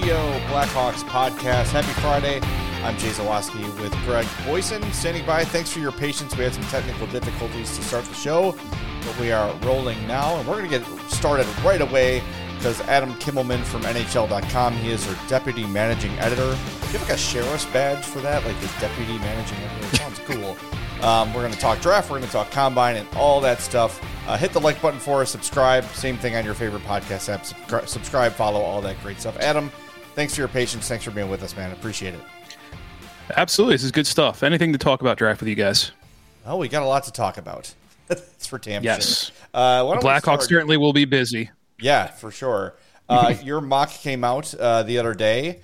Radio Blackhawks podcast. Happy Friday. I'm Jay Zawaski with Greg Boyson standing by. Thanks for your patience. We had some technical difficulties to start the show, but we are rolling now, and we're going to get started right away because Adam Kimmelman from NHL.com, he is our deputy managing editor. Do you have like a sheriff's badge for that? Like the deputy managing editor? It sounds cool. We're going to talk draft. We're going to talk combine and all that stuff. Hit the like button for us. Subscribe. Same thing on your favorite podcast app. Subscribe, follow, all that great stuff. Adam, thanks for your patience. Thanks for being with us, man. Appreciate it. Absolutely. This is good stuff. Anything to talk about draft with you guys? Oh, we got a lot to talk about. That's for damn yes. sure. Blackhawks certainly will be busy. Yeah, for sure. Your mock came out the other day.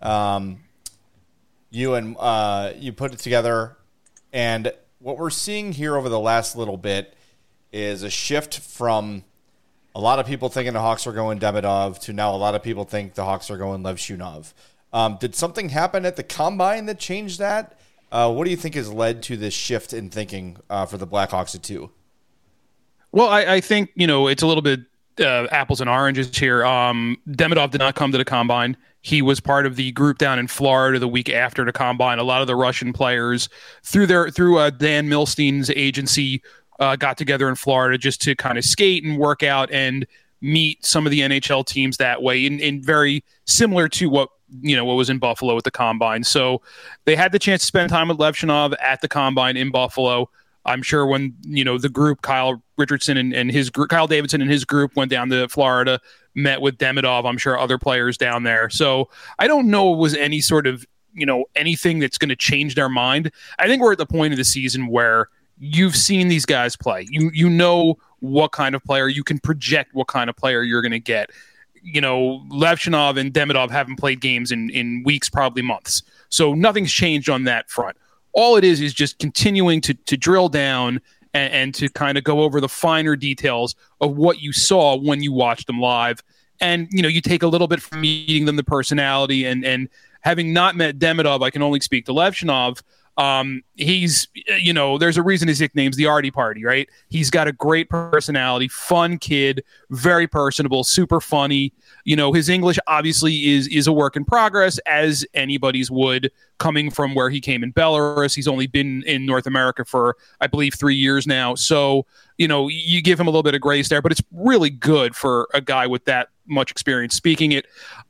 You put it together, and what we're seeing here over the last little bit is a shift from a lot of people thinking the Hawks are going Demidov to now a lot of people think the Hawks are going Lev Shunov. Did something happen at the Combine that changed that? What do you think has led to this shift in thinking for the Blackhawks at 2? Well, I think, it's a little bit apples and oranges here. Demidov did not come to the Combine. He was part of the group down in Florida the week after the Combine. A lot of the Russian players through Dan Milstein's agency got together in Florida just to kind of skate and work out and meet some of the NHL teams that way, in very similar to what was in Buffalo at the Combine. So they had the chance to spend time with Lev Shunov at the Combine in Buffalo. I'm sure when the group, Kyle Davidson and his group went down to Florida, met with Demidov. I'm sure other players down there. So I don't know it was any sort of anything that's going to change their mind. I think we're at the point of the season where you've seen these guys play. You know what kind of player you can project, what kind of player you're going to get. Lev Shunov and Demidov haven't played games in weeks, probably months. So nothing's changed on that front. All it is just continuing to drill down and to kind of go over the finer details of what you saw when you watched them live. And, you take a little bit from meeting them, the personality, and having not met Demidov, I can only speak to Lev Shunov. He's, there's a reason his nickname's the Artie Party, right? He's got a great personality, fun kid, very personable, super funny. His English obviously is a work in progress, as anybody's would, coming from where he came in Belarus. He's only been in North America for, I believe, 3 years now. So, you give him a little bit of grace there, but it's really good for a guy with that much experience speaking it.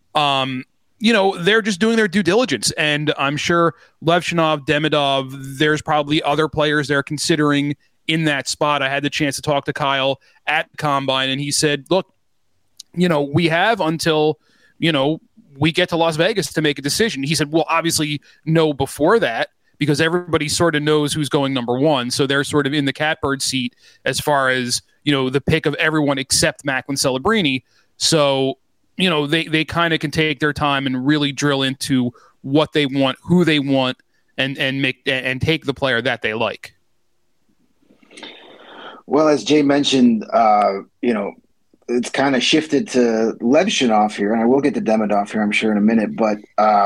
They're just doing their due diligence. And I'm sure Lev Shunov, Demidov, there's probably other players they're considering in that spot. I had the chance to talk to Kyle at Combine, and he said, look, we have until, we get to Las Vegas to make a decision. He said, well, obviously no before that, because everybody sort of knows who's going number 1. So they're sort of in the catbird seat as far as, the pick of everyone except Macklin Celebrini. So, they kind of can take their time and really drill into what they want, who they want, and take the player that they like. Well, as Jay mentioned, it's kind of shifted to Lev Shunov here, and I will get to Demidov here, I'm sure, in a minute. But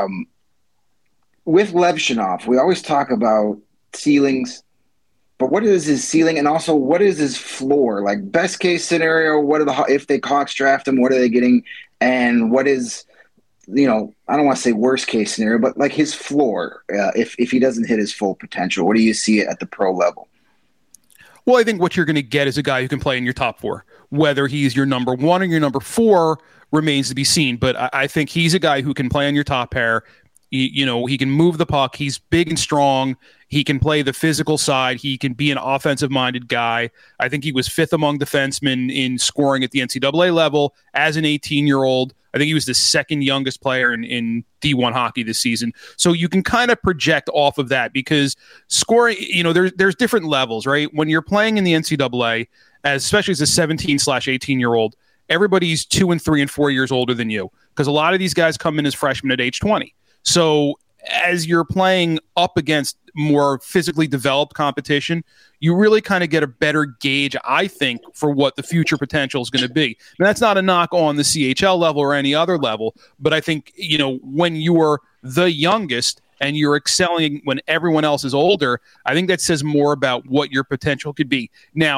with Lev Shunov, we always talk about ceilings, but what is his ceiling, and also what is his floor? Like, best case scenario, if the Hawks draft him, what are they getting? And what is, I don't want to say worst case scenario, but like his floor, if he doesn't hit his full potential, what do you see at the pro level? Well, I think what you're going to get is a guy who can play in your top 4. Whether he's your number 1 or your number 4 remains to be seen. But I think he's a guy who can play on your top pair. He can move the puck. He's big and strong. He can play the physical side. He can be an offensive-minded guy. I think he was 5th among defensemen in scoring at the NCAA level as an 18-year-old. I think he was the 2nd youngest player in D1 hockey this season. So you can kind of project off of that because scoring, there's different levels, right? When you're playing in the NCAA, especially as a 17/18-year-old, everybody's 2 and 3 and 4 years older than you because a lot of these guys come in as freshmen at age 20. So as you're playing up against more physically developed competition, you really kind of get a better gauge, I think, for what the future potential is going to be. And that's not a knock on the CHL level or any other level, but I think, when you're the youngest and you're excelling when everyone else is older, I think that says more about what your potential could be. Now,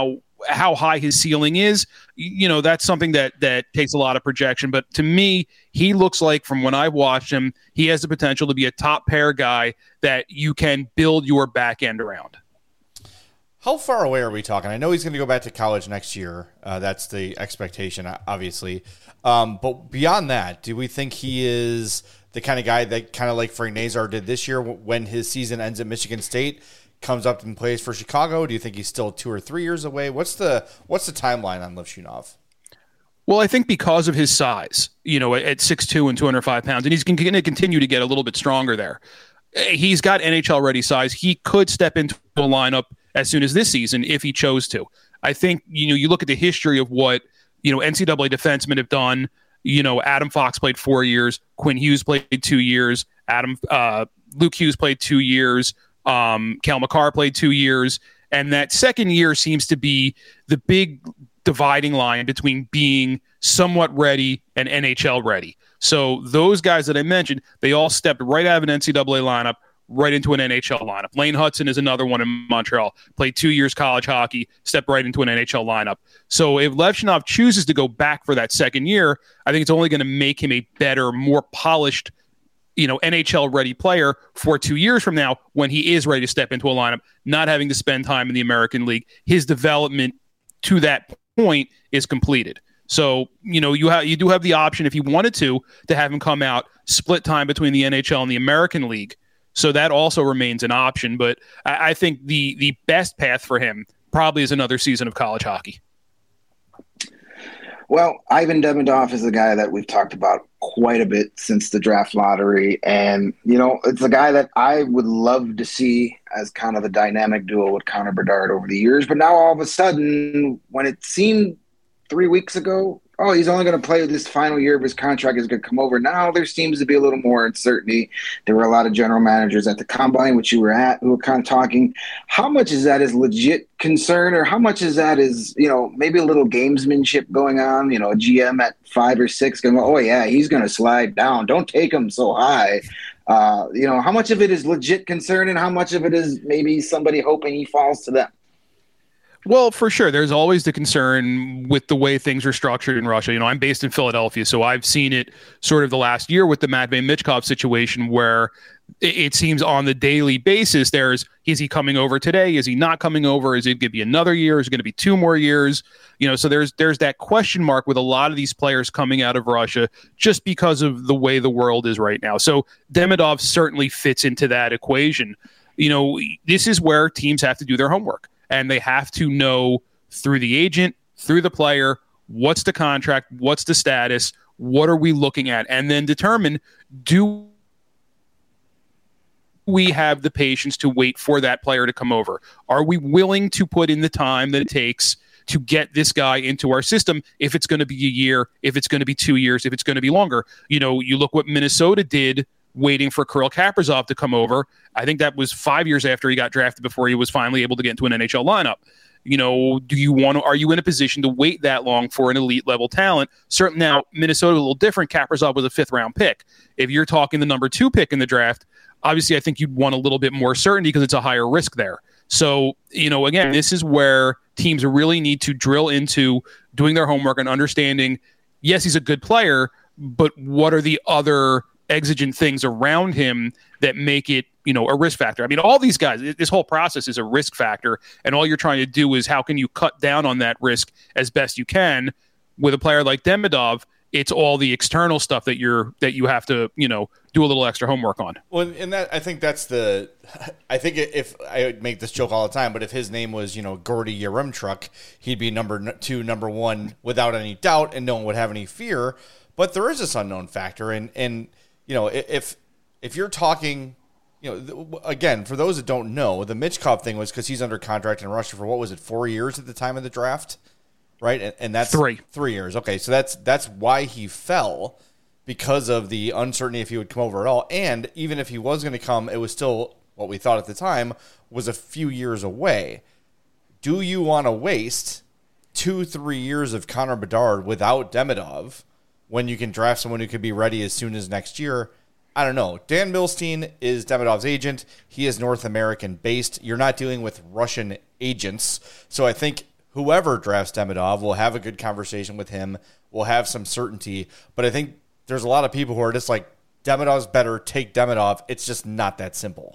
how high his ceiling is, that's something that takes a lot of projection. But to me, he looks like, from when I've watched him, he has the potential to be a top pair guy that you can build your back end around. How far away are we talking? I know he's going to go back to college next year. That's the expectation, obviously. But beyond that, do we think he is the kind of guy that, kind of like Frank Nazar did this year, when his season ends at Michigan State, comes up and plays for Chicago? Do you think he's still 2 or 3 years away? What's the timeline on Levshunov? Well, I think because of his size, at 6'2" and 205 pounds, and he's going to continue to get a little bit stronger there. He's got NHL-ready size. He could step into a lineup as soon as this season if he chose to. I think, you look at the history of what, NCAA defensemen have done. Adam Fox played 4 years. Quinn Hughes played 2 years. Luke Hughes played 2 years. Cale Makar played 2 years. And that second year seems to be the big dividing line between being somewhat ready and NHL ready. So those guys that I mentioned, they all stepped right out of an NCAA lineup, right into an NHL lineup. Lane Hudson is another one in Montreal. Played 2 years college hockey, stepped right into an NHL lineup. So if Levshunov chooses to go back for that second year, I think it's only going to make him a better, more polished, NHL-ready player for 2 years from now, when he is ready to step into a lineup, not having to spend time in the American League. His development to that point is completed. So, you do have the option, if you wanted to have him come out, split time between the NHL and the American League. So that also remains an option. But I think the best path for him probably is another season of college hockey. Well, Ivan Demidov is a guy that we've talked about quite a bit since the draft lottery. And, it's a guy that I would love to see as kind of a dynamic duo with Connor Bedard over the years. But now all of a sudden, when it seemed 3 weeks ago, he's only going to play this final year of his contract, is going to come over. Now there seems to be a little more uncertainty. There were a lot of general managers at the Combine, which you were at, who were kind of talking. How much is that is legit concern, or how much is that is, maybe a little gamesmanship going on? A GM at 5 or 6 going, oh yeah, he's going to slide down. Don't take him so high. How much of it is legit concern, and how much of it is maybe somebody hoping he falls to them? Well, for sure. There's always the concern with the way things are structured in Russia. I'm based in Philadelphia, so I've seen it sort of the last year with the Matvei Michkov situation, where it seems on the daily basis is he coming over today? Is he not coming over? Is it going to be another year? Is it going to be 2 more years? So there's that question mark with a lot of these players coming out of Russia, just because of the way the world is right now. So Demidov certainly fits into that equation. This is where teams have to do their homework. And they have to know, through the agent, through the player, what's the contract, what's the status, what are we looking at, and then determine, do we have the patience to wait for that player to come over? Are we willing to put in the time that it takes to get this guy into our system, if it's going to be a year, if it's going to be 2 years, if it's going to be longer? You look what Minnesota did waiting for Kirill Kaprizov to come over. I think that was 5 years after he got drafted before he was finally able to get into an NHL lineup. Are you in a position to wait that long for an elite level talent? Certainly now, Minnesota a little different. Kaprizov was a 5th round pick. If you're talking the number 2 pick in the draft, obviously I think you'd want a little bit more certainty because it's a higher risk there. So, again, this is where teams really need to drill into doing their homework and understanding, yes, he's a good player, but what are the other exigent things around him that make it, a risk factor? I mean, all these guys, this whole process is a risk factor, and all you're trying to do is how can you cut down on that risk as best you can. With a player like Demidov, it's all the external stuff that you have to, do a little extra homework on. Well, and that, I think if I would make this joke all the time, but if his name was, Gordy Yaremchuk, he'd be number 2, number 1 without any doubt, and no one would have any fear. But there is this unknown factor, and if you're talking, again, for those that don't know, the Michkov thing was because he's under contract in Russia for, what was it, 4 years at the time of the draft, right? And that's 3 years. Okay, so that's why he fell, because of the uncertainty if he would come over at all. And even if he was going to come, it was still what we thought at the time was a few years away. Do you want to waste 2-3 years of Connor Bedard without Demidov when you can draft someone who could be ready as soon as next year? I don't know. Dan Milstein is Demidov's agent. He is North American based. You're not dealing with Russian agents. So I think whoever drafts Demidov will have a good conversation with him, will have some certainty. But I think there's a lot of people who are just like, Demidov's better, take Demidov. It's just not that simple.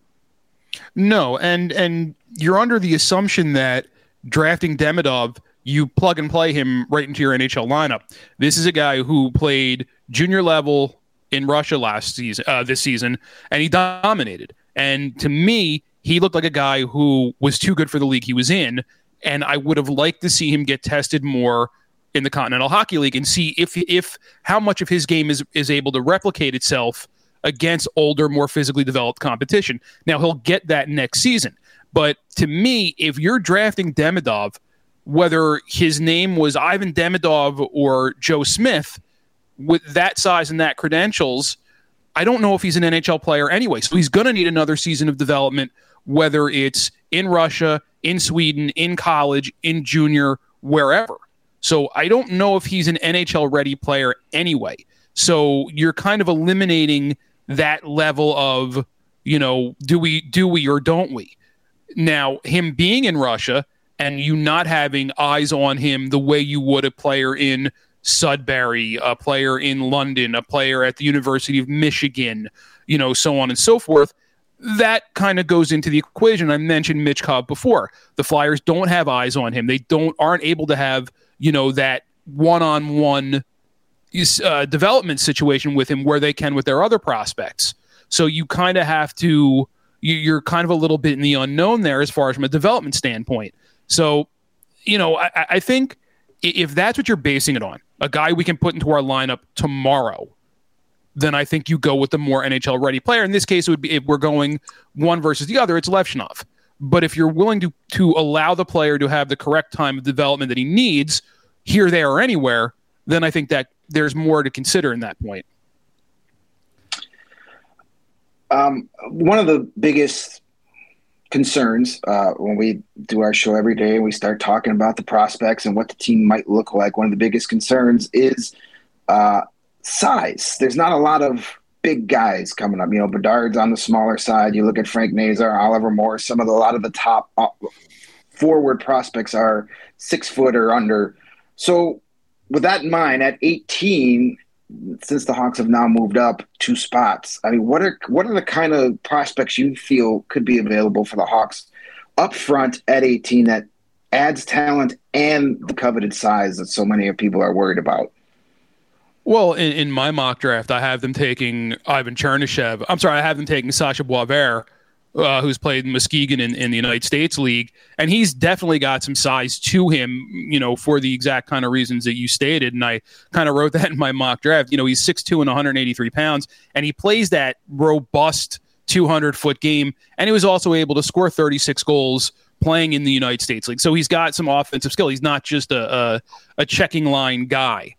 No, and you're under the assumption that drafting Demidov, you plug and play him right into your NHL lineup. This is a guy who played junior level in Russia this season, and he dominated. And to me, he looked like a guy who was too good for the league he was in, and I would have liked to see him get tested more in the Continental Hockey League and see if how much of his game is able to replicate itself against older, more physically developed competition. Now, he'll get that next season. But to me, if you're drafting Demidov, whether his name was Ivan Demidov or Joe Smith, with that size and that credentials, I don't know if he's an NHL player anyway. So he's going to need another season of development, whether it's in Russia, in Sweden, in college, in junior, wherever. So I don't know if he's an NHL-ready player anyway. So you're kind of eliminating that level of, do we or don't we? Now, him being in Russia and you not having eyes on him the way you would a player in Sudbury, a player in London, a player at the University of Michigan, so on and so forth, that kind of goes into the equation. I mentioned Mitch Cobb before. The Flyers don't have eyes on him. They aren't able to have, that one-on-one development situation with him where they can with their other prospects. So you kind of have to, you're kind of a little bit in the unknown there as far as from a development standpoint. So, I think if that's what you're basing it on, a guy we can put into our lineup tomorrow, then I think you go with the more NHL ready player. In this case, it would be, if we're going one versus the other, it's Levshunov. But if you're willing to allow the player to have the correct time of development that he needs here, there, or anywhere, then I think that there's more to consider in that point. One of the biggest concerns when we do our show every day and we start talking about the prospects and what the team might look like, one of the biggest concerns is size. There's not a lot of big guys coming up. Bedard's on the smaller side. You look at Frank Nazar, Oliver Morris, a lot of the top forward prospects are 6 foot or under. So with that in mind, at 18, since the Hawks have now moved up 2 spots, I mean, what are the kind of prospects you feel could be available for the Hawks up front at 18 that adds talent and the coveted size that so many people are worried about? Well, in my mock draft, I have them taking Ivan Chernishev. I'm sorry, I have them taking Sasha Boisvert, who's played in Muskegon in the United States League. And he's definitely got some size to him, for the exact kind of reasons that you stated. And I kind of wrote that in my mock draft. He's 6'2" and 183 pounds, and he plays that robust 200-foot game. And he was also able to score 36 goals playing in the United States League. So he's got some offensive skill. He's not just a checking line guy.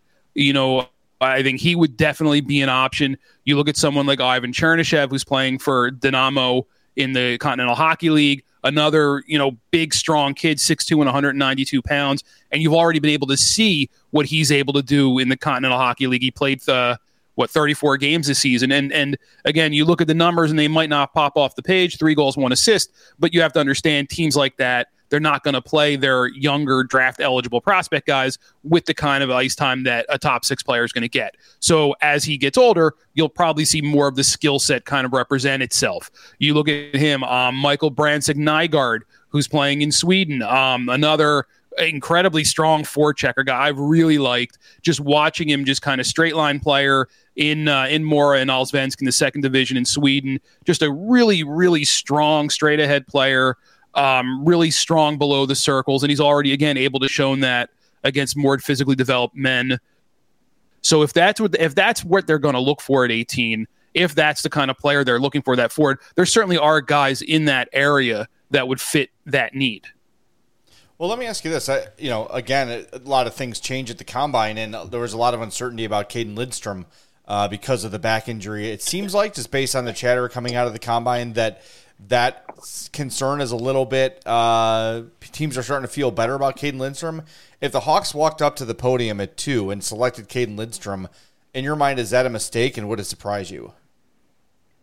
I think he would definitely be an option. You look at someone like Ivan Chernishev, who's playing for Dynamo in the Continental Hockey League, another, big, strong kid, 6'2" and 192 pounds, and you've already been able to see what he's able to do in the Continental Hockey League. He played 34 games this season, and again, you look at the numbers, and they might not pop off the page, 3 goals, 1 assist, but you have to understand teams like that, they're not going to play their younger draft-eligible prospect guys with the kind of ice time that a top 6 player is going to get. So as he gets older, you'll probably see more of the skill set kind of represent itself. You look at him, Michael Brandstad-Nygaard, who's playing in Sweden, another incredibly strong forechecker guy I've really liked, just watching him, just kind of straight-line player in Mora and Allsvenskan in the 2nd division in Sweden. Just a really, really strong, straight-ahead player. Really strong below the circles, and he's already, again, able to show that against more physically developed men. So if that's what they're going to look for at 18, if that's the kind of player they're looking for that forward, there certainly are guys in that area that would fit that need. Well, let me ask you this. Again, a lot of things change at the Combine, and there was a lot of uncertainty about Caden Lidstrom because of the back injury. It seems like, just based on the chatter coming out of the Combine, that concern is a little bit, teams are starting to feel better about Caden Lidstrom. If the Hawks walked up to the podium at 2 and selected Caden Lidstrom, in your mind, is that a mistake, and would it surprise you?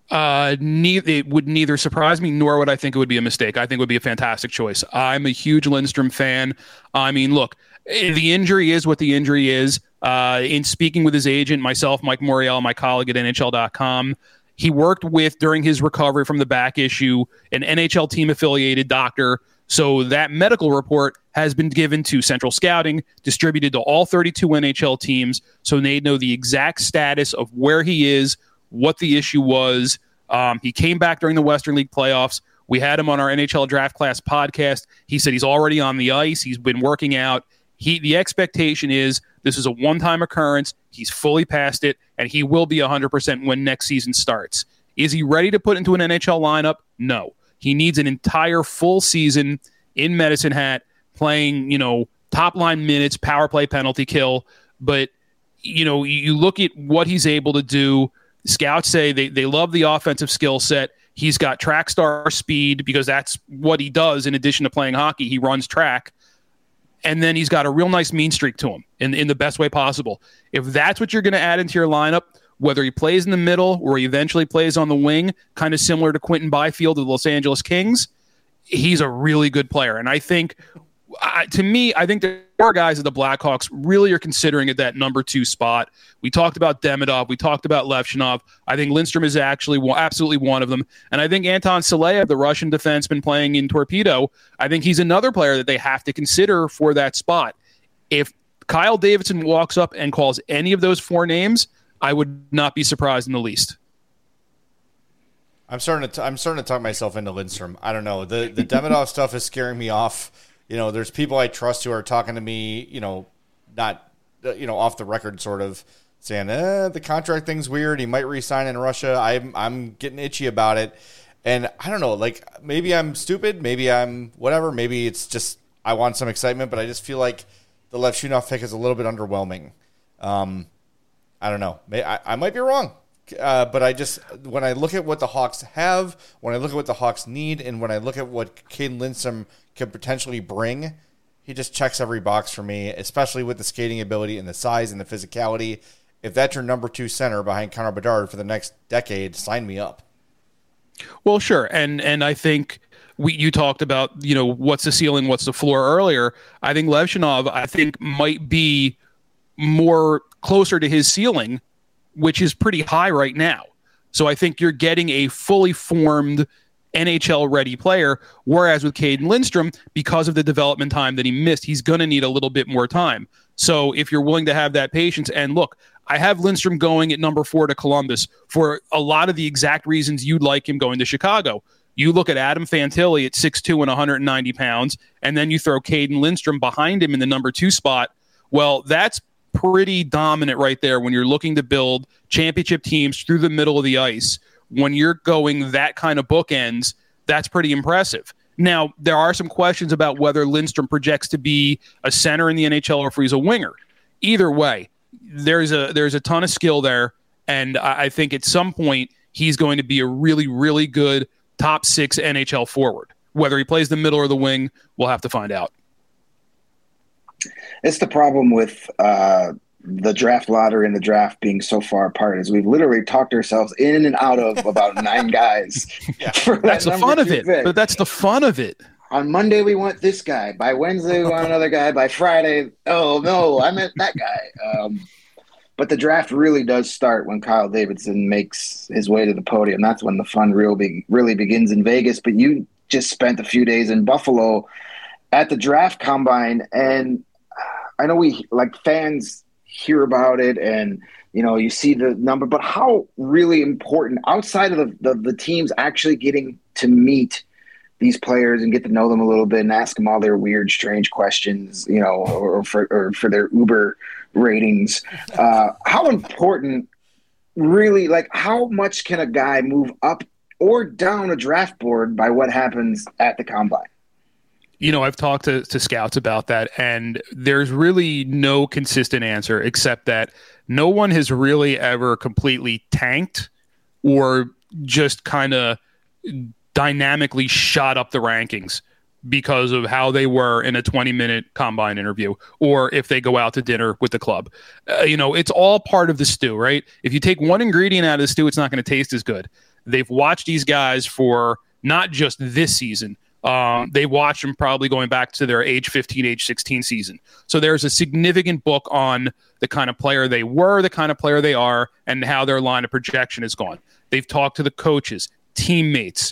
It would neither surprise me nor would I think it would be a mistake. I think it would be a fantastic choice. I'm a huge Lindstrom fan. I mean, look, the injury is what the injury is. In speaking with his agent, myself, Mike Morial, my colleague at NHL.com, he worked with, during his recovery from the back issue, an NHL team-affiliated doctor. So that medical report has been given to Central Scouting, distributed to all 32 NHL teams, so they know the exact status of where he is, what the issue was. He came back during the Western League playoffs. We had him on our NHL Draft Class podcast. He said he's already on the ice. He's been working out. The expectation is this is a one-time occurrence. He's fully past it, and he will be 100% when next season starts. Is he ready to put into an NHL lineup? No. He needs an entire full season in Medicine Hat, playing, top-line minutes, power play, penalty kill. But, you look at what he's able to do. Scouts say they love the offensive skill set. He's got track star speed because that's what he does in addition to playing hockey. He runs track. And then he's got a real nice mean streak to him in the best way possible. If that's what you're going to add into your lineup, whether he plays in the middle or he eventually plays on the wing, kind of similar to Quentin Byfield of the Los Angeles Kings, he's a really good player. And I think, to me, I think there are guys at the Blackhawks really are considering at that number 2 spot. We talked about Demidov. We talked about Levchinov. I think Lindstrom is actually absolutely one of them. And I think Anton Saleyev, the Russian defenseman playing in Torpedo, I think he's another player that they have to consider for that spot. If Kyle Davidson walks up and calls any of those 4 names, I would not be surprised in the least. I'm starting to talk myself into Lindstrom. I don't know. The Demidov stuff is scaring me off. There's people I trust who are talking to me, not, off the record sort of saying, the contract thing's weird. He might re-sign in Russia. I'm getting itchy about it. And I don't know, like maybe I'm stupid. Maybe I'm whatever. Maybe it's just I want some excitement, but I just feel like the Levchinov pick is a little bit underwhelming. I don't know. I might be wrong. But when I look at what the Hawks have, when I look at what the Hawks need, and when I look at what Caden Lindstrom could potentially bring, he just checks every box for me, especially with the skating ability and the size and the physicality. If that's your number 2 center behind Connor Bedard for the next decade, sign me up. Well, sure. And I think you talked about, what's the ceiling, what's the floor earlier. I think Levchinov, might be more closer to his ceiling, which is pretty high right now. So I think you're getting a fully formed NHL-ready player, whereas with Caden Lindstrom, because of the development time that he missed, he's going to need a little bit more time. So if you're willing to have that patience, and look, I have Lindstrom going at number 4 to Columbus for a lot of the exact reasons you'd like him going to Chicago. You look at Adam Fantilli at 6'2" and 190 pounds, and then you throw Caden Lindstrom behind him in the number 2 spot. Well, that's pretty dominant right there when you're looking to build championship teams through the middle of the ice. When you're going that kind of bookends, that's pretty impressive. Now, there are some questions about whether Lindstrom projects to be a center in the NHL or if he's a winger. Either way, there's a ton of skill there, and I think at some point he's going to be a really, really good top 6 NHL forward. Whether he plays the middle or the wing, we'll have to find out. It's the problem with the draft lottery and the draft being so far apart is we've literally talked ourselves in and out of about 9 guys. Yeah, that's the fun of it. But that's the fun of it. On Monday, we want this guy. By Wednesday, we want another guy. By Friday, oh, no, I meant that guy. But the draft really does start when Kyle Davidson makes his way to the podium. That's when the fun really begins in Vegas. But you just spent a few days in Buffalo at the draft combine, and I know fans hear about it and, you see the number, but how really important outside of the teams actually getting to meet these players and get to know them a little bit and ask them all their weird, strange questions, or for their Uber ratings. How important really, how much can a guy move up or down a draft board by what happens at the combine? I've talked to scouts about that, and there's really no consistent answer except that no one has really ever completely tanked or just kind of dynamically shot up the rankings because of how they were in a 20-minute combine interview or if they go out to dinner with the club. It's all part of the stew, right? If you take one ingredient out of the stew, it's not going to taste as good. They've watched these guys for not just this season. They watched them probably going back to their age 15, age 16 season. So there's a significant book on the kind of player they were, the kind of player they are, and how their line of projection has gone. They've talked to the coaches, teammates,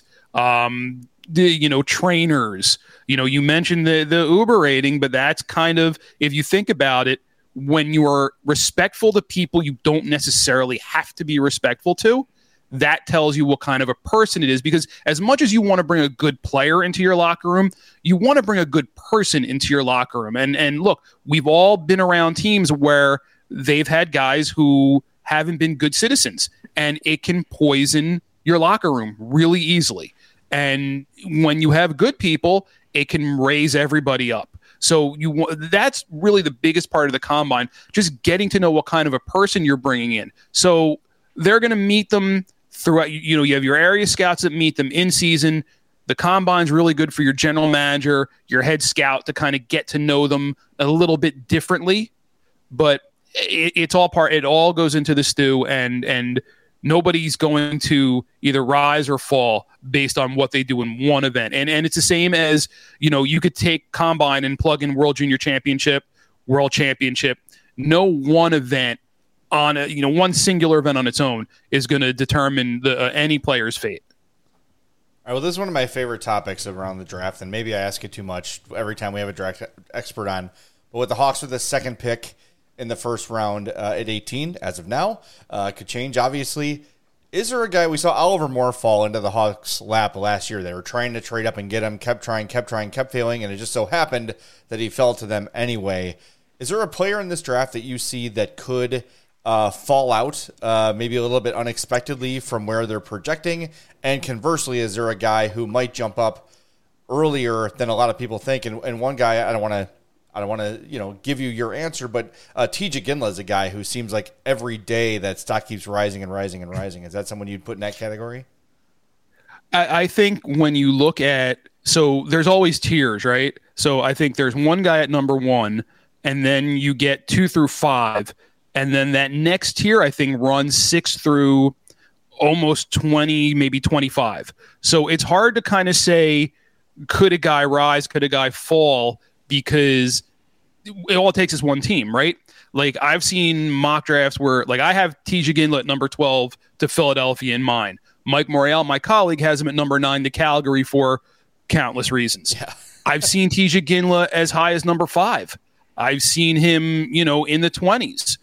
trainers. You mentioned the Uber rating, but that's kind of, if you think about it, when you are respectful to people you don't necessarily have to be respectful to, that tells you what kind of a person it is. Because as much as you want to bring a good player into your locker room, you want to bring a good person into your locker room. And look, we've all been around teams where they've had guys who haven't been good citizens, and it can poison your locker room really easily. And when you have good people, it can raise everybody up. So that's really the biggest part of the combine, just getting to know what kind of a person you're bringing in. So they're going to meet them throughout. You have your area scouts that meet them in season. The combine's really good for your general manager, your head scout, to kind of get to know them a little bit differently. But it's all part. It all goes into the stew, and nobody's going to either rise or fall based on what they do in one event. And it's the same as, you could take combine and plug in World Junior Championship, World Championship. No one event on one singular event on its own is going to determine any player's fate. All right, well, this is one of my favorite topics around the draft, and maybe I ask it too much every time we have a draft expert on. But with the Hawks with the second pick in the first round at 18 as of now, could change, obviously. Is there a guy, we saw Oliver Moore fall into the Hawks' lap last year. They were trying to trade up and get him, kept trying, kept failing, and it just so happened that he fell to them anyway. Is there a player in this draft that you see that could fall out maybe a little bit unexpectedly from where they're projecting? And conversely, is there a guy who might jump up earlier than a lot of people think? And one guy, I don't want to give you your answer, but T.J. Ginla is a guy who seems like every day that stock keeps rising and rising and rising. Is that someone you'd put in that category? I think when you look at, so there's always tiers, right? So I think there's one guy at number 1, and then you get 2 through 5. And then that next tier, I think, runs 6 through almost 20, maybe 25. So it's hard to kind of say, could a guy rise, could a guy fall, because all it takes is one team, right? Like, I've seen mock drafts where, like, I have T.J. Ginla at number 12 to Philadelphia in mine. Mike Morreale, my colleague, has him at number 9 to Calgary for countless reasons. Yeah. I've seen T.J. Ginla as high as number 5. I've seen him, in the 20s.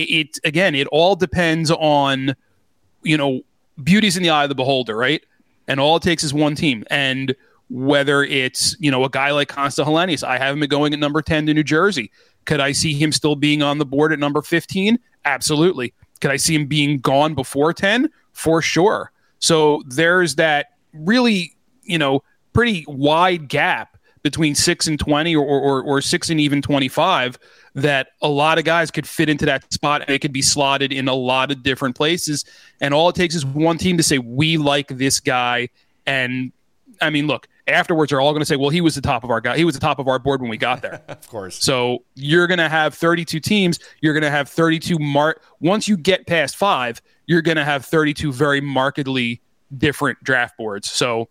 It all depends on, beauty's in the eye of the beholder, right? And all it takes is one team. And whether it's, a guy like Consta Helenius, I have him going at number 10 to New Jersey. Could I see him still being on the board at number 15? Absolutely. Could I see him being gone before 10? For sure. So there's that really, pretty wide gap between 6 and 20 or 6 and even 25 that a lot of guys could fit into that spot, and it could be slotted in a lot of different places. And all it takes is one team to say, we like this guy. And I mean, look, afterwards they're all going to say, well, he was the top of our guy. He was the top of our board when we got there. Of course. So you're going to have 32 teams. You're going to have 32 once you get past 5, you're going to have 32 very markedly different draft boards. So,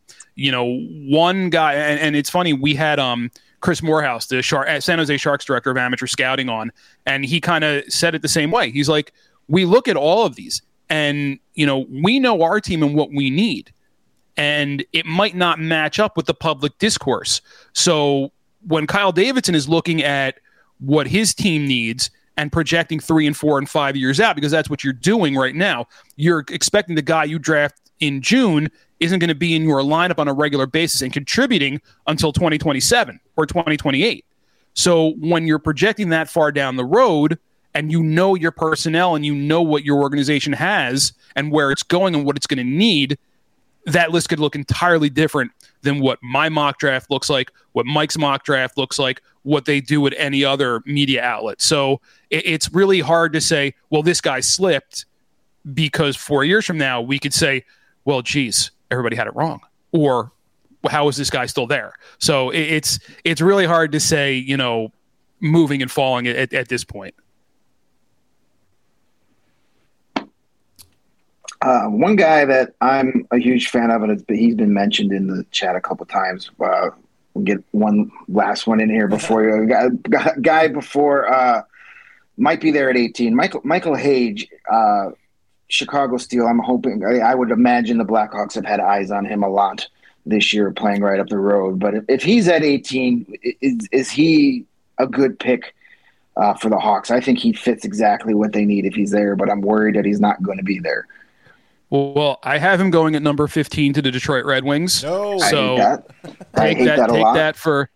one guy, and it's funny, we had Chris Morehouse, the San Jose Sharks director of amateur scouting, on, and he kind of said it the same way. He's like, we look at all of these, and we know our team and what we need, and it might not match up with the public discourse. So when Kyle Davidson is looking at what his team needs and projecting 3 and 4 and 5 years out, because that's what you're doing right now, you're expecting the guy you draft in June isn't going to be in your lineup on a regular basis and contributing until 2027 or 2028. So when you're projecting that far down the road, and your personnel and what your organization has and where it's going and what it's going to need, that list could look entirely different than what my mock draft looks like, what Mike's mock draft looks like, what they do at any other media outlet. So it's really hard to say, well, this guy slipped, because 4 years from now we could say, well, geez, everybody had it wrong. Or how is this guy still there? So it's really hard to say, moving and falling at this point. One guy that I'm a huge fan of, and he's been mentioned in the chat a couple times. We'll get one last one in here before you. Guy before might be there at 18. Michael Hage, Chicago Steel. I'm hoping. I would imagine the Blackhawks have had eyes on him a lot this year, playing right up the road. But if he's at 18, is he a good pick for the Hawks? I think he fits exactly what they need if he's there. But I'm worried that he's not going to be there. Well, I have him going at number 15 to the Detroit Red Wings. No, so take that for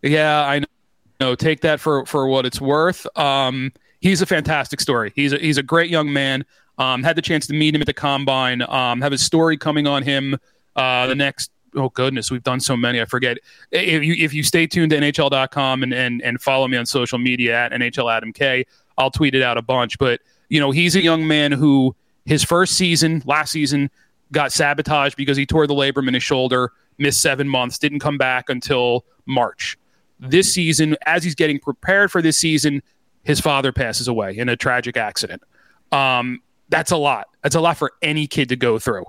what it's worth. He's a fantastic story. He's a great young man. Had the chance to meet him at the Combine. Have a story coming on him the next. Oh goodness, we've done so many. I forget. If you stay tuned to NHL.com and follow me on social media at NHL Adam K, I'll tweet it out a bunch. But he's a young man who. His first season, last season, got sabotaged because he tore the labrum in his shoulder, missed 7 months, didn't come back until March. This season, as he's getting prepared for this season, his father passes away in a tragic accident. That's a lot. That's a lot for any kid to go through.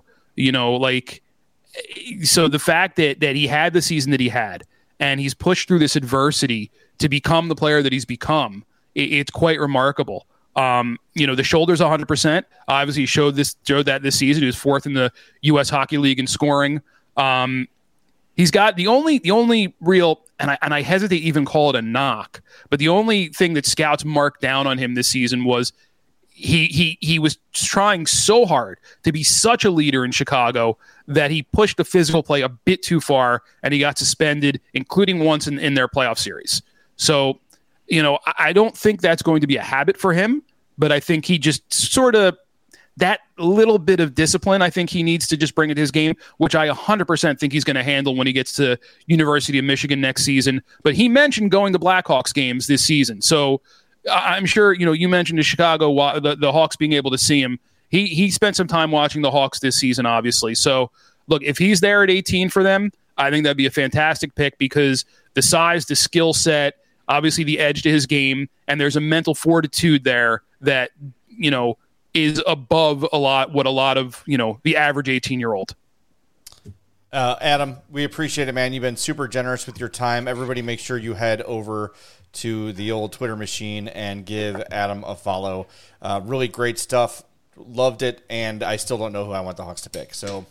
So the fact that he had the season that he had, and he's pushed through this adversity to become the player that he's become, it's quite remarkable. The shoulder's 100%. Obviously, he showed that this season. He was fourth in the U.S. Hockey League in scoring. He's got the only real, and I hesitate to even call it a knock, but the only thing that scouts marked down on him this season was he was trying so hard to be such a leader in Chicago that he pushed the physical play a bit too far, and he got suspended, including once in their playoff series. So. I don't think that's going to be a habit for him, but I think he just sort of that little bit of discipline, I think he needs to just bring into his game, which I 100% think he's going to handle when he gets to University of Michigan next season. But he mentioned going to Blackhawks games this season. So I'm sure, you mentioned the Chicago, the Hawks being able to see him. He spent some time watching the Hawks this season, obviously. So look, if he's there at 18 for them, I think that'd be a fantastic pick because the size, the skill set, obviously the edge to his game, and there's a mental fortitude there that, is above what a lot of, the average 18-year-old. Adam, we appreciate it, man. You've been super generous with your time. Everybody make sure you head over to the old Twitter machine and give Adam a follow. Really great stuff. Loved it, and I still don't know who I want the Hawks to pick. So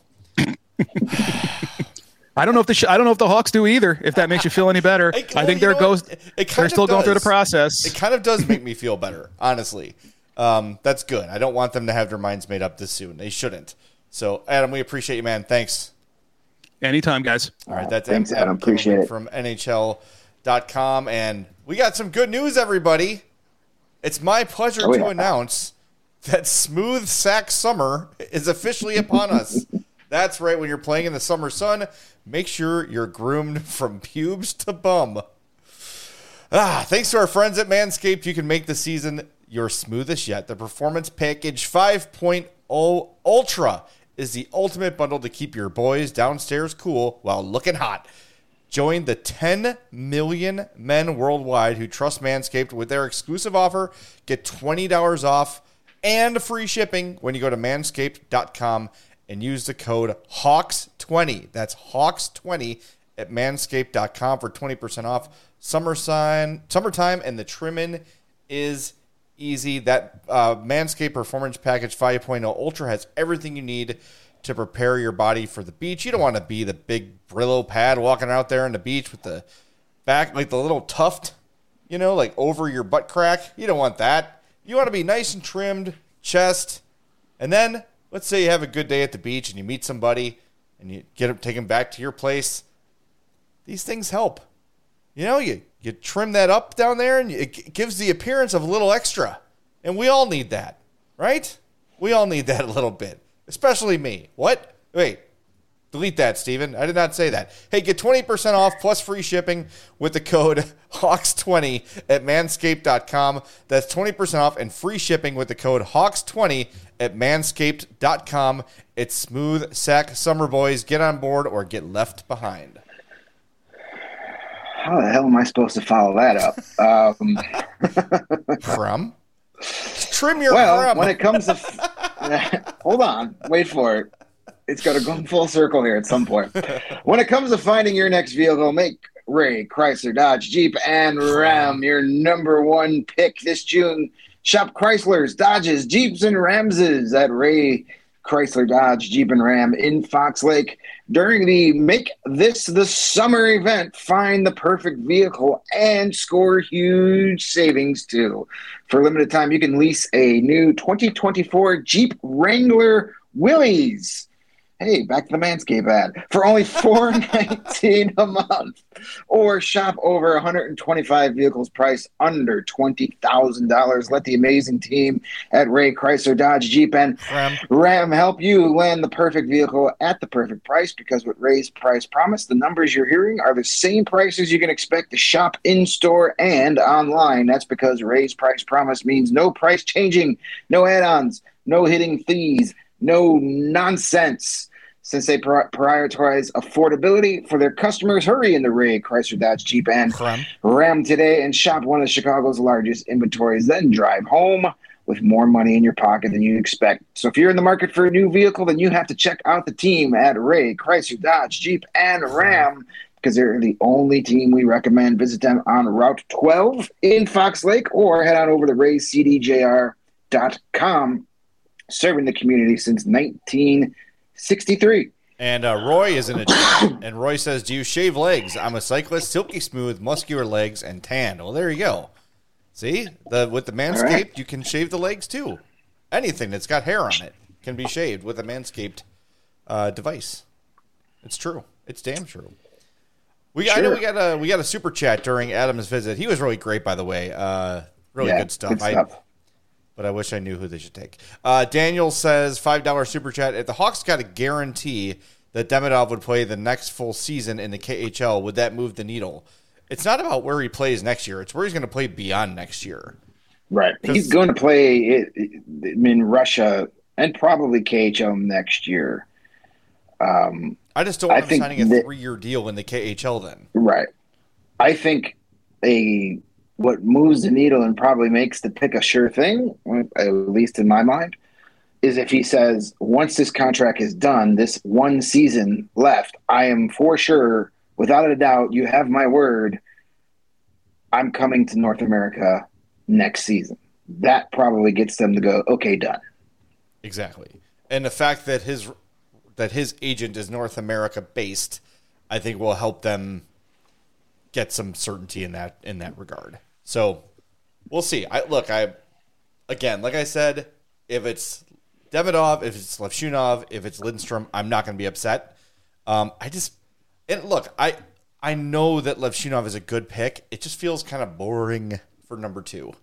I don't know if the Hawks do either. If that makes you feel any better, I think they're still going through the process. It kind of does make me feel better, honestly. That's good. I don't want them to have their minds made up this soon. They shouldn't. So, Adam, we appreciate you, man. Thanks. Anytime, guys. All right, that's thanks, Adam. Appreciate it. From NHL.com, and we got some good news, everybody. It's my pleasure to announce that Smooth Sack Summer is officially upon us. That's right. When you're playing in the summer sun, make sure you're groomed from pubes to bum. Thanks to our friends at Manscaped, you can make the season your smoothest yet. The Performance Package 5.0 Ultra is the ultimate bundle to keep your boys downstairs cool while looking hot. Join the 10 million men worldwide who trust Manscaped with their exclusive offer. Get $20 off and free shipping when you go to manscaped.com and use the code HAWKS20. That's HAWKS20 at manscaped.com for 20% off. Summertime, and the trimming is easy. That Manscaped Performance Package 5.0 Ultra has everything you need to prepare your body for the beach. You don't want to be the big Brillo pad walking out there on the beach with the back, like the little tuft, like over your butt crack. You don't want that. You want to be nice and trimmed, chest, and then let's say you have a good day at the beach and you meet somebody and you take them back to your place. These things help. You trim that up down there and it gives the appearance of a little extra. And we all need that, right? We all need that a little bit, especially me. What? Wait, delete that, Steven. I did not say that. Hey, get 20% off plus free shipping with the code HAWKS20 at manscaped.com. That's 20% off and free shipping with the code HAWKS20 at manscaped.com. It's Smooth Sack Summer, boys. Get on board or get left behind. How the hell am I supposed to follow that up? From? Trim your crumb. When it comes to Hold on. Wait for it. It's got to go full circle here at some point. When it comes to finding your next vehicle, make Ray Chrysler Dodge Jeep and Ram your number one pick this June. Shop Chryslers, Dodges, Jeeps, and Ramses at Ray Chrysler Dodge Jeep and Ram in Fox Lake. During the Make This the Summer event, find the perfect vehicle and score huge savings too. For a limited time, you can lease a new 2024 Jeep Wrangler Willys. Hey, back to the Manscaped ad. For only $419 a month. Or shop over 125 vehicles priced under $20,000. Let the amazing team at Ray Chrysler Dodge Jeep and Ram help you land the perfect vehicle at the perfect price, because with Ray's price promise, the numbers you're hearing are the same prices you can expect to shop in-store and online. That's because Ray's price promise means no price changing, no add-ons, no hitting fees, no nonsense. Since they prioritize affordability for their customers, hurry in the Ray Chrysler Dodge Jeep and Ram today and shop one of Chicago's largest inventories. Then drive home with more money in your pocket than you expect. So if you're in the market for a new vehicle, then you have to check out the team at Ray Chrysler Dodge Jeep and Ram, because they're the only team we recommend. Visit them on Route 12 in Fox Lake, or head on over to raycdjr.com, serving the community since 1963. And Roy is in a chat, and Roy says, do you shave legs? I'm a cyclist, silky smooth, muscular legs, and tan. Well, there you go. See? With the Manscaped, right, you can shave the legs too. Anything that's got hair on it can be shaved with a Manscaped device. It's true. It's damn true. I know we got a super chat during Adam's visit. He was really great, by the way. Really good stuff. But I wish I knew who they should take. Daniel says, $5 super chat. If the Hawks got a guarantee that Demidov would play the next full season in the KHL, would that move the needle? It's not about where he plays next year. It's where he's going to play beyond next year. Right. He's going to play in Russia and probably KHL next year. I just don't want him signing a 3-year deal in the KHL then. Right. I think what moves the needle and probably makes the pick a sure thing, at least in my mind, is if he says, once this contract is done, this one season left, I am for sure, without a doubt, you have my word, I'm coming to North America next season. That probably gets them to go, okay, done. Exactly. And the fact that his agent is North America based, I think will help them get some certainty in that regard. So we'll see. Again, like I said, if it's Demidov, if it's Levshunov, if it's Lindstrom, I'm not going to be upset. I know that Levshunov is a good pick. It just feels kind of boring for number 2.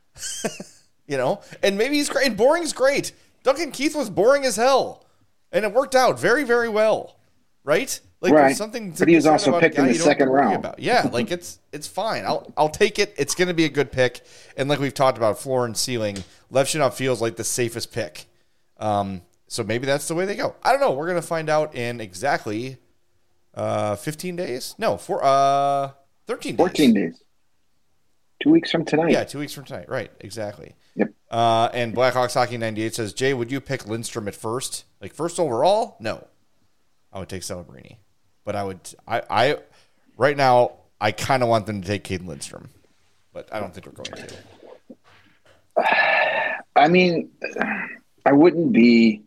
And maybe he's great. And boring's great. Duncan Keith was boring as hell, and it worked out very, very well, right? Right. Something but he was also picked in the second round. Yeah, it's fine. I'll take it. It's going to be a good pick. And like we've talked about, floor and ceiling, Levshunov feels like the safest pick. So maybe that's the way they go. I don't know. We're going to find out in exactly 15 days. No, 13 days. 14 days. 2 weeks from tonight. Yeah, 2 weeks from tonight. Right, exactly. Yep. And Blackhawks Hockey 98 says, Jay, would you pick Lindstrom at first? Like first overall? No. I would take Celebrini. But I right now, I kind of want them to take Caden Lindstrom. But I don't think we're going to. I mean, I wouldn't be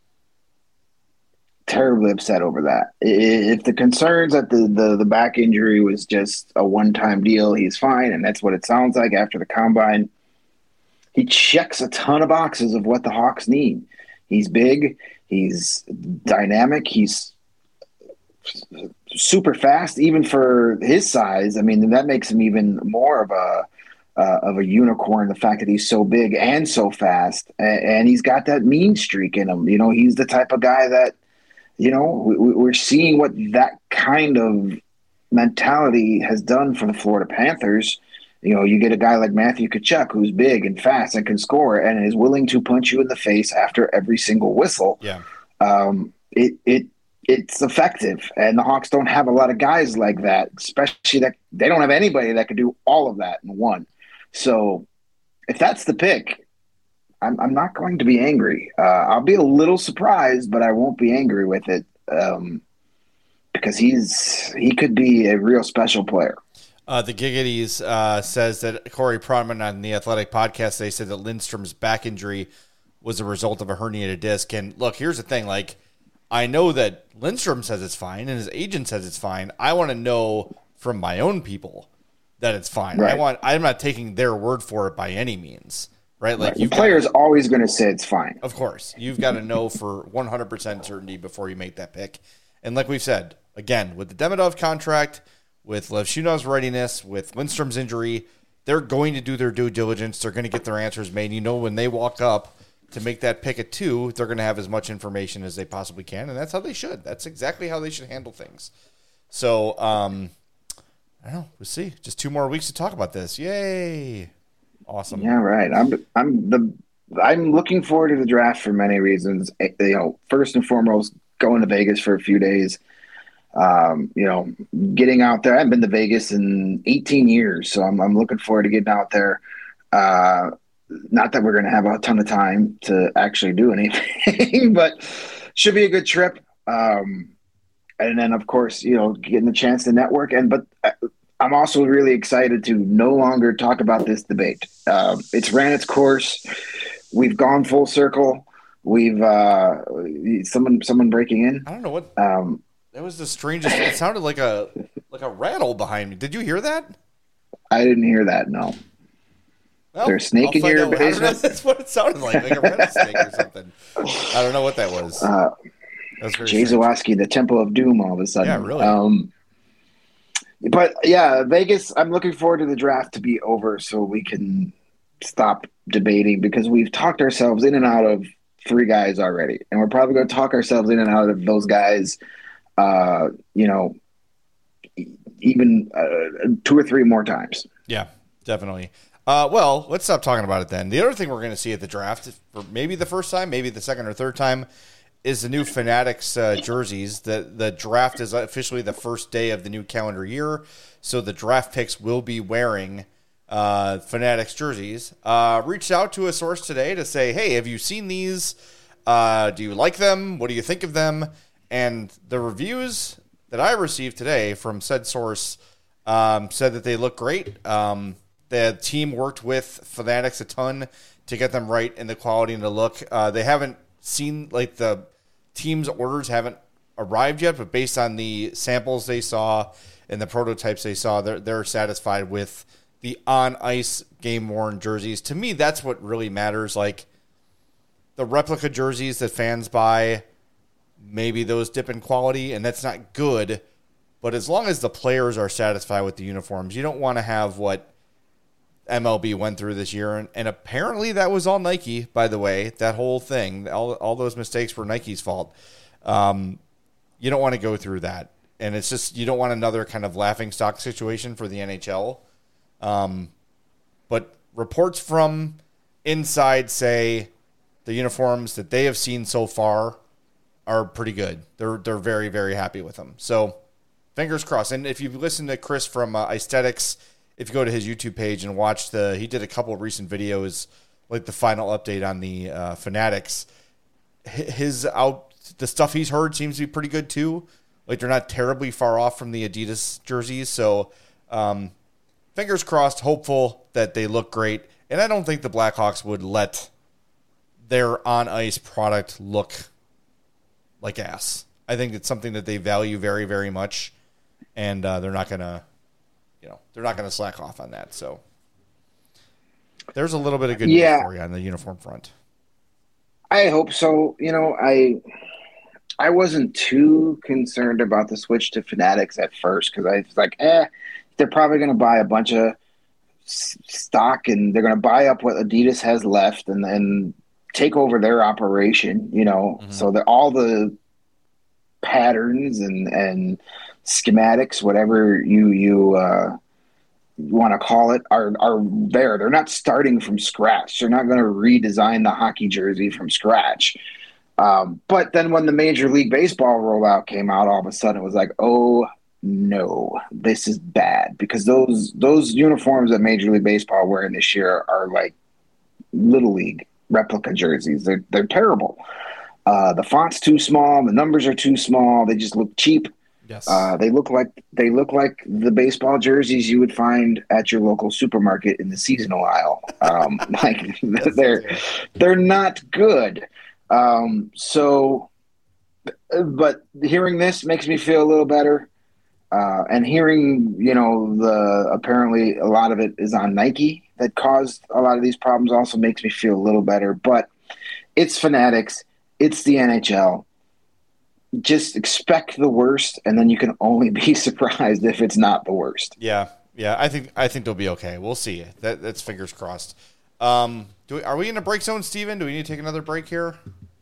terribly upset over that. If the concerns that the back injury was just a one-time deal, he's fine, and that's what it sounds like after the combine. He checks a ton of boxes of what the Hawks need. He's big, he's dynamic, he's super fast, even for his size. I mean, that makes him even more of a unicorn, the fact that he's so big and so fast, and he's got that mean streak in him. He's the type of guy that, we're seeing what that kind of mentality has done for the Florida Panthers. You get a guy like Matthew Tkachuk, who's big and fast and can score and is willing to punch you in the face after every single whistle. Yeah. It's effective, and the Hawks don't have a lot of guys like that, especially that they don't have anybody that could do all of that in one. So if that's the pick, I'm not going to be angry. I'll be a little surprised, but I won't be angry with it because he could be a real special player. The Giggities says that Corey Pronman on the Athletic podcast, they said that Lindstrom's back injury was a result of a herniated disc. And look, here's the thing. Like, I know that Lindstrom says it's fine and his agent says it's fine. I want to know from my own people that it's fine. Right. I'm not taking their word for it by any means. Right? Like, the player's always going to say it's fine. Of course. You've got to know for 100% certainty before you make that pick. And like we've said, again, with the Demidov contract, with Levshunov's readiness, with Lindstrom's injury, they're going to do their due diligence. They're going to get their answers made. You know, when they walk up to make that pick at 2, they're going to have as much information as they possibly can, and that's how they should. That's exactly how they should handle things. So, I don't know. We'll see. Just 2 more weeks to talk about this. Yay! Awesome. Yeah, right. I'm looking forward to the draft for many reasons. You know, first and foremost, going to Vegas for a few days. You know, getting out there. I haven't been to Vegas in 18 years, so I'm looking forward to getting out there. Not that we're going to have a ton of time to actually do anything, but should be a good trip. And then, of course, you know, getting the chance to network. But I'm also really excited to no longer talk about this debate. It's ran its course. We've gone full circle. We've someone breaking in. I don't know what. That was the strangest. It sounded like a rattle behind me. Did you hear that? I didn't hear that. No. Well, there's a snake in your basement? That's what it sounded like a rattlesnake or something. I don't know what that was. Jay Zawaski, the Temple of Doom, all of a sudden. Yeah, really. But yeah, Vegas, I'm looking forward to the draft to be over so we can stop debating, because we've talked ourselves in and out of 3 guys already. And we're probably going to talk ourselves in and out of those guys, you know, even 2 or 3 more times. Yeah, definitely. Well, let's stop talking about it then. The other thing we're going to see at the draft, for maybe the first time, maybe the second or third time, is the new Fanatics jerseys. The draft is officially the first day of the new calendar year, so the draft picks will be wearing Fanatics jerseys. Reached out to a source today to say, hey, have you seen these? Do you like them? What do you think of them? And the reviews that I received today from said source said that they look great. The team worked with Fanatics a ton to get them right in the quality and the look. They haven't seen, like, the team's orders haven't arrived yet, but based on the samples they saw and the prototypes they saw, they're satisfied with the on-ice game-worn jerseys. To me, that's what really matters. Like, the replica jerseys that fans buy, maybe those dip in quality, and that's not good. But as long as the players are satisfied with the uniforms, you don't want to have what MLB went through this year, and apparently that was all Nike, by the way. That whole thing, all those mistakes were Nike's fault. You don't want to go through that, and it's just, you don't want another kind of laughingstock situation for the NHL. But reports from inside say the uniforms that they have seen so far are pretty good. They're very, very happy with them. So fingers crossed. And if you've listened to Chris from Aesthetics, if you go to his YouTube page and watch he did a couple of recent videos, like the final update on the Fanatics. The stuff he's heard seems to be pretty good too. Like, they're not terribly far off from the Adidas jerseys. So, fingers crossed, hopeful that they look great. And I don't think the Blackhawks would let their on-ice product look like ass. I think it's something that they value very, very much, and they're not gonna slack off on that. So there's a little bit of good news for you on the uniform front. I hope so. You know, I wasn't too concerned about the switch to Fanatics at first, because I was like, they're probably going to buy a bunch of stock, and they're going to buy up what Adidas has left and then take over their operation, you know. Mm-hmm. So that all the patterns and schematics, whatever you want to call it, are there. They're not starting from scratch. They're not going to redesign the hockey jersey from scratch. But then when the Major League Baseball rollout came out, all of a sudden it was like, oh no, this is bad, because those uniforms that Major League Baseball are wearing this year are like Little League. replica jerseys. They're terrible. The font's too small. The numbers are too small. They just look cheap. Yes. They look like the baseball jerseys you would find at your local supermarket in the seasonal aisle. Like they're not good. But hearing this makes me feel a little better. And hearing, apparently a lot of it is on Nike that caused a lot of these problems also makes me feel a little better. But it's Fanatics. It's the NHL. Just expect the worst, and then you can only be surprised if it's not the worst. Yeah. I think they'll be okay. We'll see. That's fingers crossed. Are we in a break zone, Steven? Do we need to take another break here?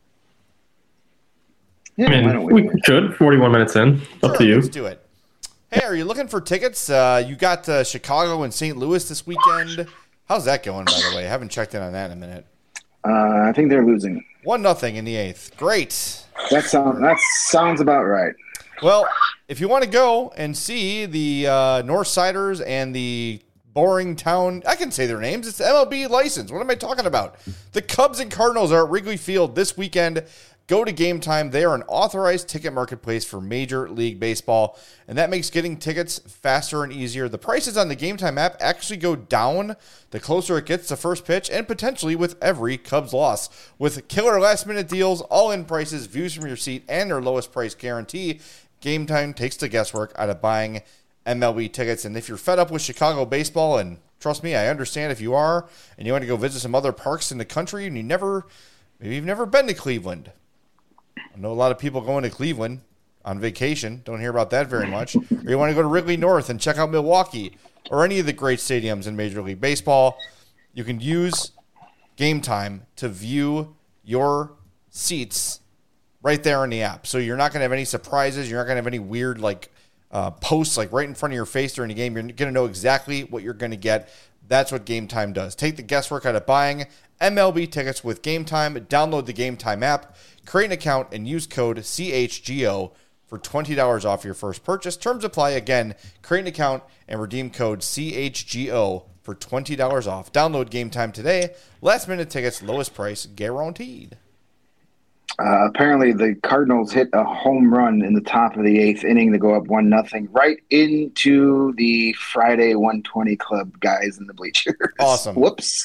Yeah, I mean, we should. 41 minutes in. Up to you. Let's do it. Hey, are you looking for tickets? You got Chicago and St. Louis this weekend. How's that going, by the way? I haven't checked in on that in a minute. I think they're losing 1-0 in the 8th. Great. That sounds about right. Well, if you want to go and see the Northsiders and the boring town, I can say their names. It's the MLB license. What am I talking about? The Cubs and Cardinals are at Wrigley Field this weekend. Go to Game Time. They are an authorized ticket marketplace for Major League Baseball, and that makes getting tickets faster and easier. The prices on the Game Time app actually go down the closer it gets to first pitch and potentially with every Cubs loss. With killer last-minute deals, all-in prices, views from your seat, and their lowest price guarantee, Game Time takes the guesswork out of buying MLB tickets. And if you're fed up with Chicago baseball, and trust me, I understand if you are, and you want to go visit some other parks in the country, and maybe you've never been to Cleveland. I know a lot of people going to Cleveland on vacation. Don't hear about that very much. Or you want to go to Wrigley North and check out Milwaukee or any of the great stadiums in Major League Baseball. You can use Game Time to view your seats right there in the app. So you're not going to have any surprises. You're not going to have any weird posts right in front of your face during the game. You're going to know exactly what you're going to get. That's what Game Time does. Take the guesswork out of buying MLB tickets with Game Time. Download the Game Time app, create an account, and use code CHGO for $20 off your first purchase. Terms apply. Again, create an account and redeem code CHGO for $20 off. Download Game Time today. Last minute tickets, lowest price guaranteed. Apparently, the Cardinals hit a home run in the top of the 8th inning to go up 1-0 right into the Friday 120 Club guys in the bleachers. Awesome. Whoops.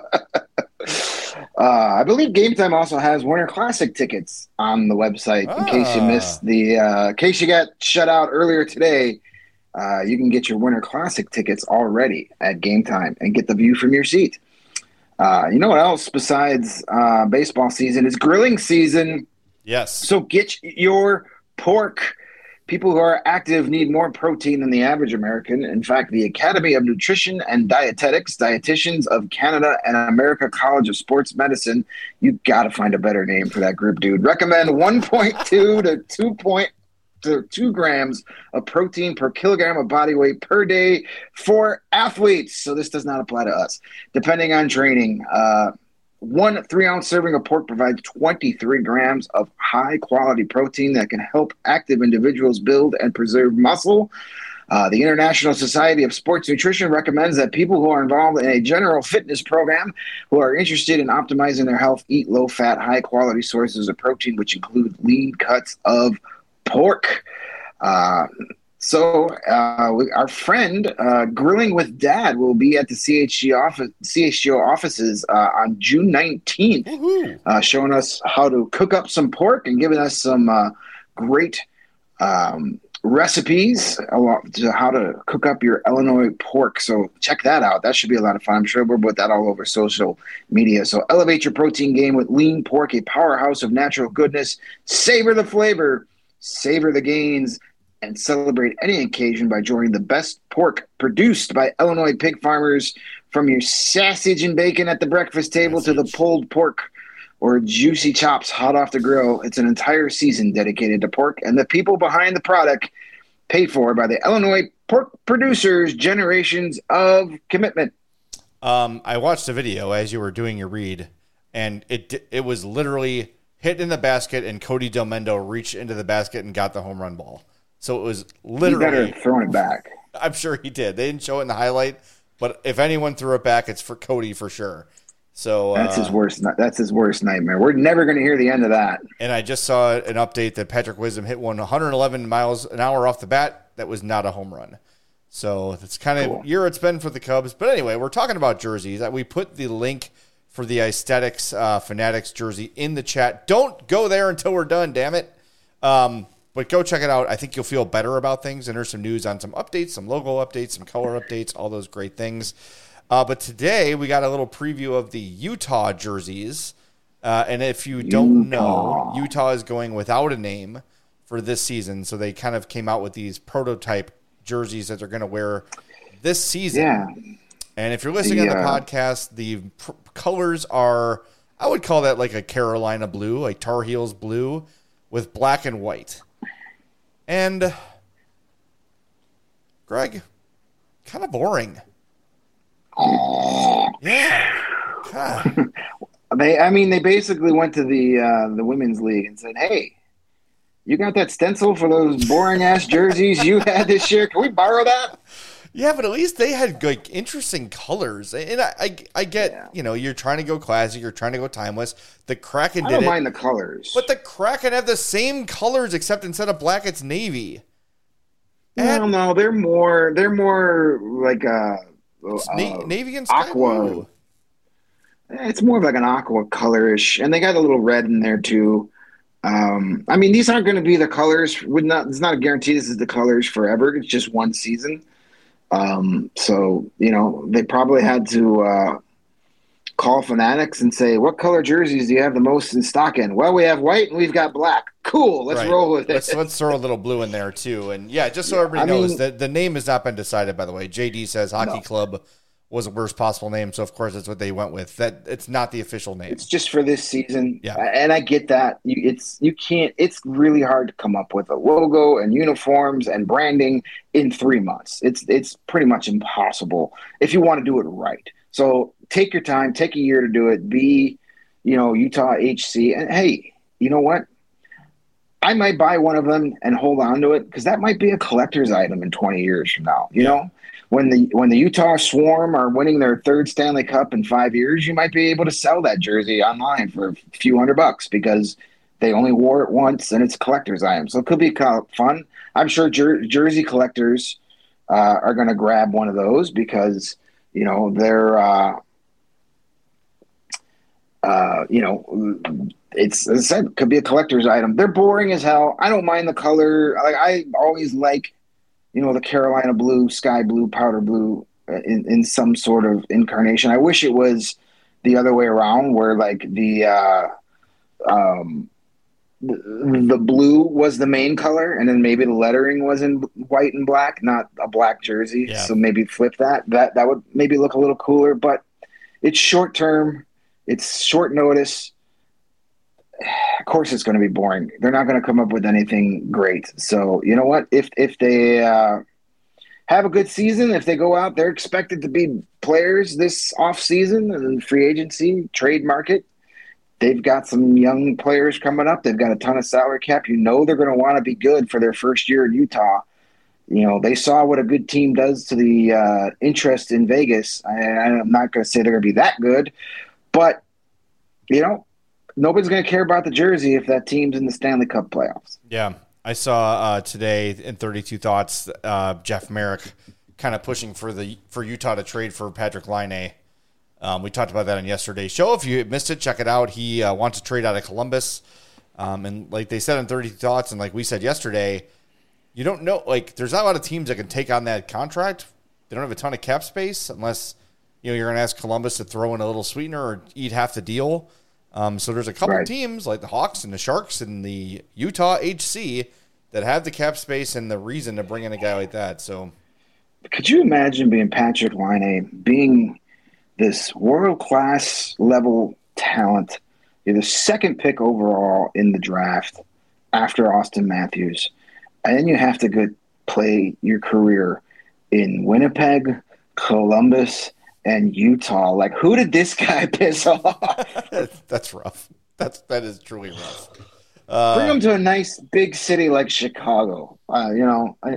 I believe Game Time also has Winter Classic tickets on the website. In case you missed in case you got shut out earlier today, you can get your Winter Classic tickets already at Game Time and get the view from your seat. You know what else besides baseball season is grilling season. Yes. So get your pork. People who are active need more protein than the average American. In fact, the Academy of Nutrition and Dietetics, Dietitians of Canada and America College of Sports Medicine, you got to find a better name for that group, dude. Recommend 1.2 to 2 grams of protein per kilogram of body weight per day for athletes. So this does not apply to us. Depending on training, 1 3-ounce serving of pork provides 23 grams of high-quality protein that can help active individuals build and preserve muscle. The International Society of Sports Nutrition recommends that people who are involved in a general fitness program who are interested in optimizing their health eat low-fat, high-quality sources of protein, which include lean cuts of pork. Our friend Grilling with Dad will be at the CHGO offices on June 19th, showing us how to cook up some pork and giving us some great recipes to how to cook up your Illinois pork. So check that out. That should be a lot of fun. I'm sure we'll put that all over social media. So elevate your protein game with lean pork, a powerhouse of natural goodness. Savor the flavor, savor the gains, and celebrate any occasion by joining the best pork produced by Illinois pig farmers, from your sausage and bacon at the breakfast table to the pulled pork or juicy chops hot off the grill. It's an entire season dedicated to pork and the people behind the product, paid for by the Illinois pork producers' generations of commitment. I watched the video as you were doing your read, and it was literally hit in the basket, and Cody Delmendo reached into the basket and got the home run ball. So it was literally... He better throw it back. I'm sure he did. They didn't show it in the highlight, but if anyone threw it back, it's for Cody for sure. So that's his worst. That's his worst nightmare. We're never going to hear the end of that. And I just saw an update that Patrick Wisdom hit one 111 miles an hour off the bat. That was not a home run. So that's kind of year it's been for the Cubs. But anyway, we're talking about jerseys. We put the link for the Aesthetics Fanatics jersey in the chat. Don't go there until we're done, damn it. But go check it out. I think you'll feel better about things. And there's some news on some updates, some logo updates, some color updates, all those great things. But today we got a little preview of the Utah jerseys. And if you don't know, Utah is going without a name for this season. So they kind of came out with these prototype jerseys that they're going to wear this season. Yeah. And if you're listening on the podcast, the colors are, I would call that like a Carolina blue, like Tar Heels blue with black and white. And Greg, kind of boring. Yeah. God. They basically went to the women's league and said, "Hey, you got that stencil for those boring ass jerseys you had this year? Can we borrow that?" Yeah, but at least they had like interesting colors. And I get, you're trying to go classic, you're trying to go timeless. The Kraken did it. I don't mind the colors. But the Kraken have the same colors except instead of black, it's navy. No, they're more like navy and sky blue. It's more of like an aqua colorish, and they got a little red in there too. These aren't going to be the colors. It's not a guarantee this is the colors forever. It's just one season. So they probably had to call Fanatics and say, "What color jerseys do you have the most in stock in?" "Well, we have white and we've got black." "Cool, let's roll with it." Let's throw a little blue in there too. And yeah, just so everybody knows that the name has not been decided. By the way, JD says Hockey Club was the worst possible name, so of course that's what they went with. That it's not the official name. It's just for this season. Yeah, and I get that. You can't. It's really hard to come up with a logo and uniforms and branding in 3 months. It's pretty much impossible if you want to do it right. So take your time, take a year to do it. Be, Utah HC, and hey, you know what? I might buy one of them and hold on to it because that might be a collector's item in 20 years from now. You know. When the Utah Swarm are winning their third Stanley Cup in 5 years, you might be able to sell that jersey online for a few $100 because they only wore it once and it's a collector's item. So it could be kind of fun. I'm sure jersey collectors are going to grab one of those because they're it's, as I said, could be a collector's item. They're boring as hell. I don't mind the color. I always like. The Carolina blue, sky blue, powder blue in some sort of incarnation. I wish it was the other way around where like the blue was the main color and then maybe the lettering was in white and black, not a black jersey. Yeah. So maybe flip that. That would maybe look a little cooler, but it's short term. It's short notice. Of course it's going to be boring. They're not going to come up with anything great. So you know what? If they have a good season, if they go out, they're expected to be players this off season and free agency trade market. They've got some young players coming up. They've got a ton of salary cap. They're going to want to be good for their first year in Utah. They saw what a good team does to the interest in Vegas. I'm not going to say they're going to be that good, but nobody's going to care about the jersey if that team's in the Stanley Cup playoffs. Yeah. I saw today in 32 Thoughts, Jeff Merrick kind of pushing for Utah to trade for Patrick Laine. We talked about that on yesterday's show. If you missed it, check it out. He wants to trade out of Columbus. And like they said in 32 Thoughts, and like we said yesterday, you don't know, like there's not a lot of teams that can take on that contract. They don't have a ton of cap space unless, you're going to ask Columbus to throw in a little sweetener or eat half the deal. So there's a couple teams like the Hawks and the Sharks and the Utah HC that have the cap space and the reason to bring in a guy like that. So, could you imagine being Patrick Laine, being this world-class level talent? You're the second pick overall in the draft after Austin Matthews, and then you have to go play your career in Winnipeg, Columbus, and Utah. Like, who did this guy piss off? That's rough. That is truly rough. Bring him to a nice big city like Chicago.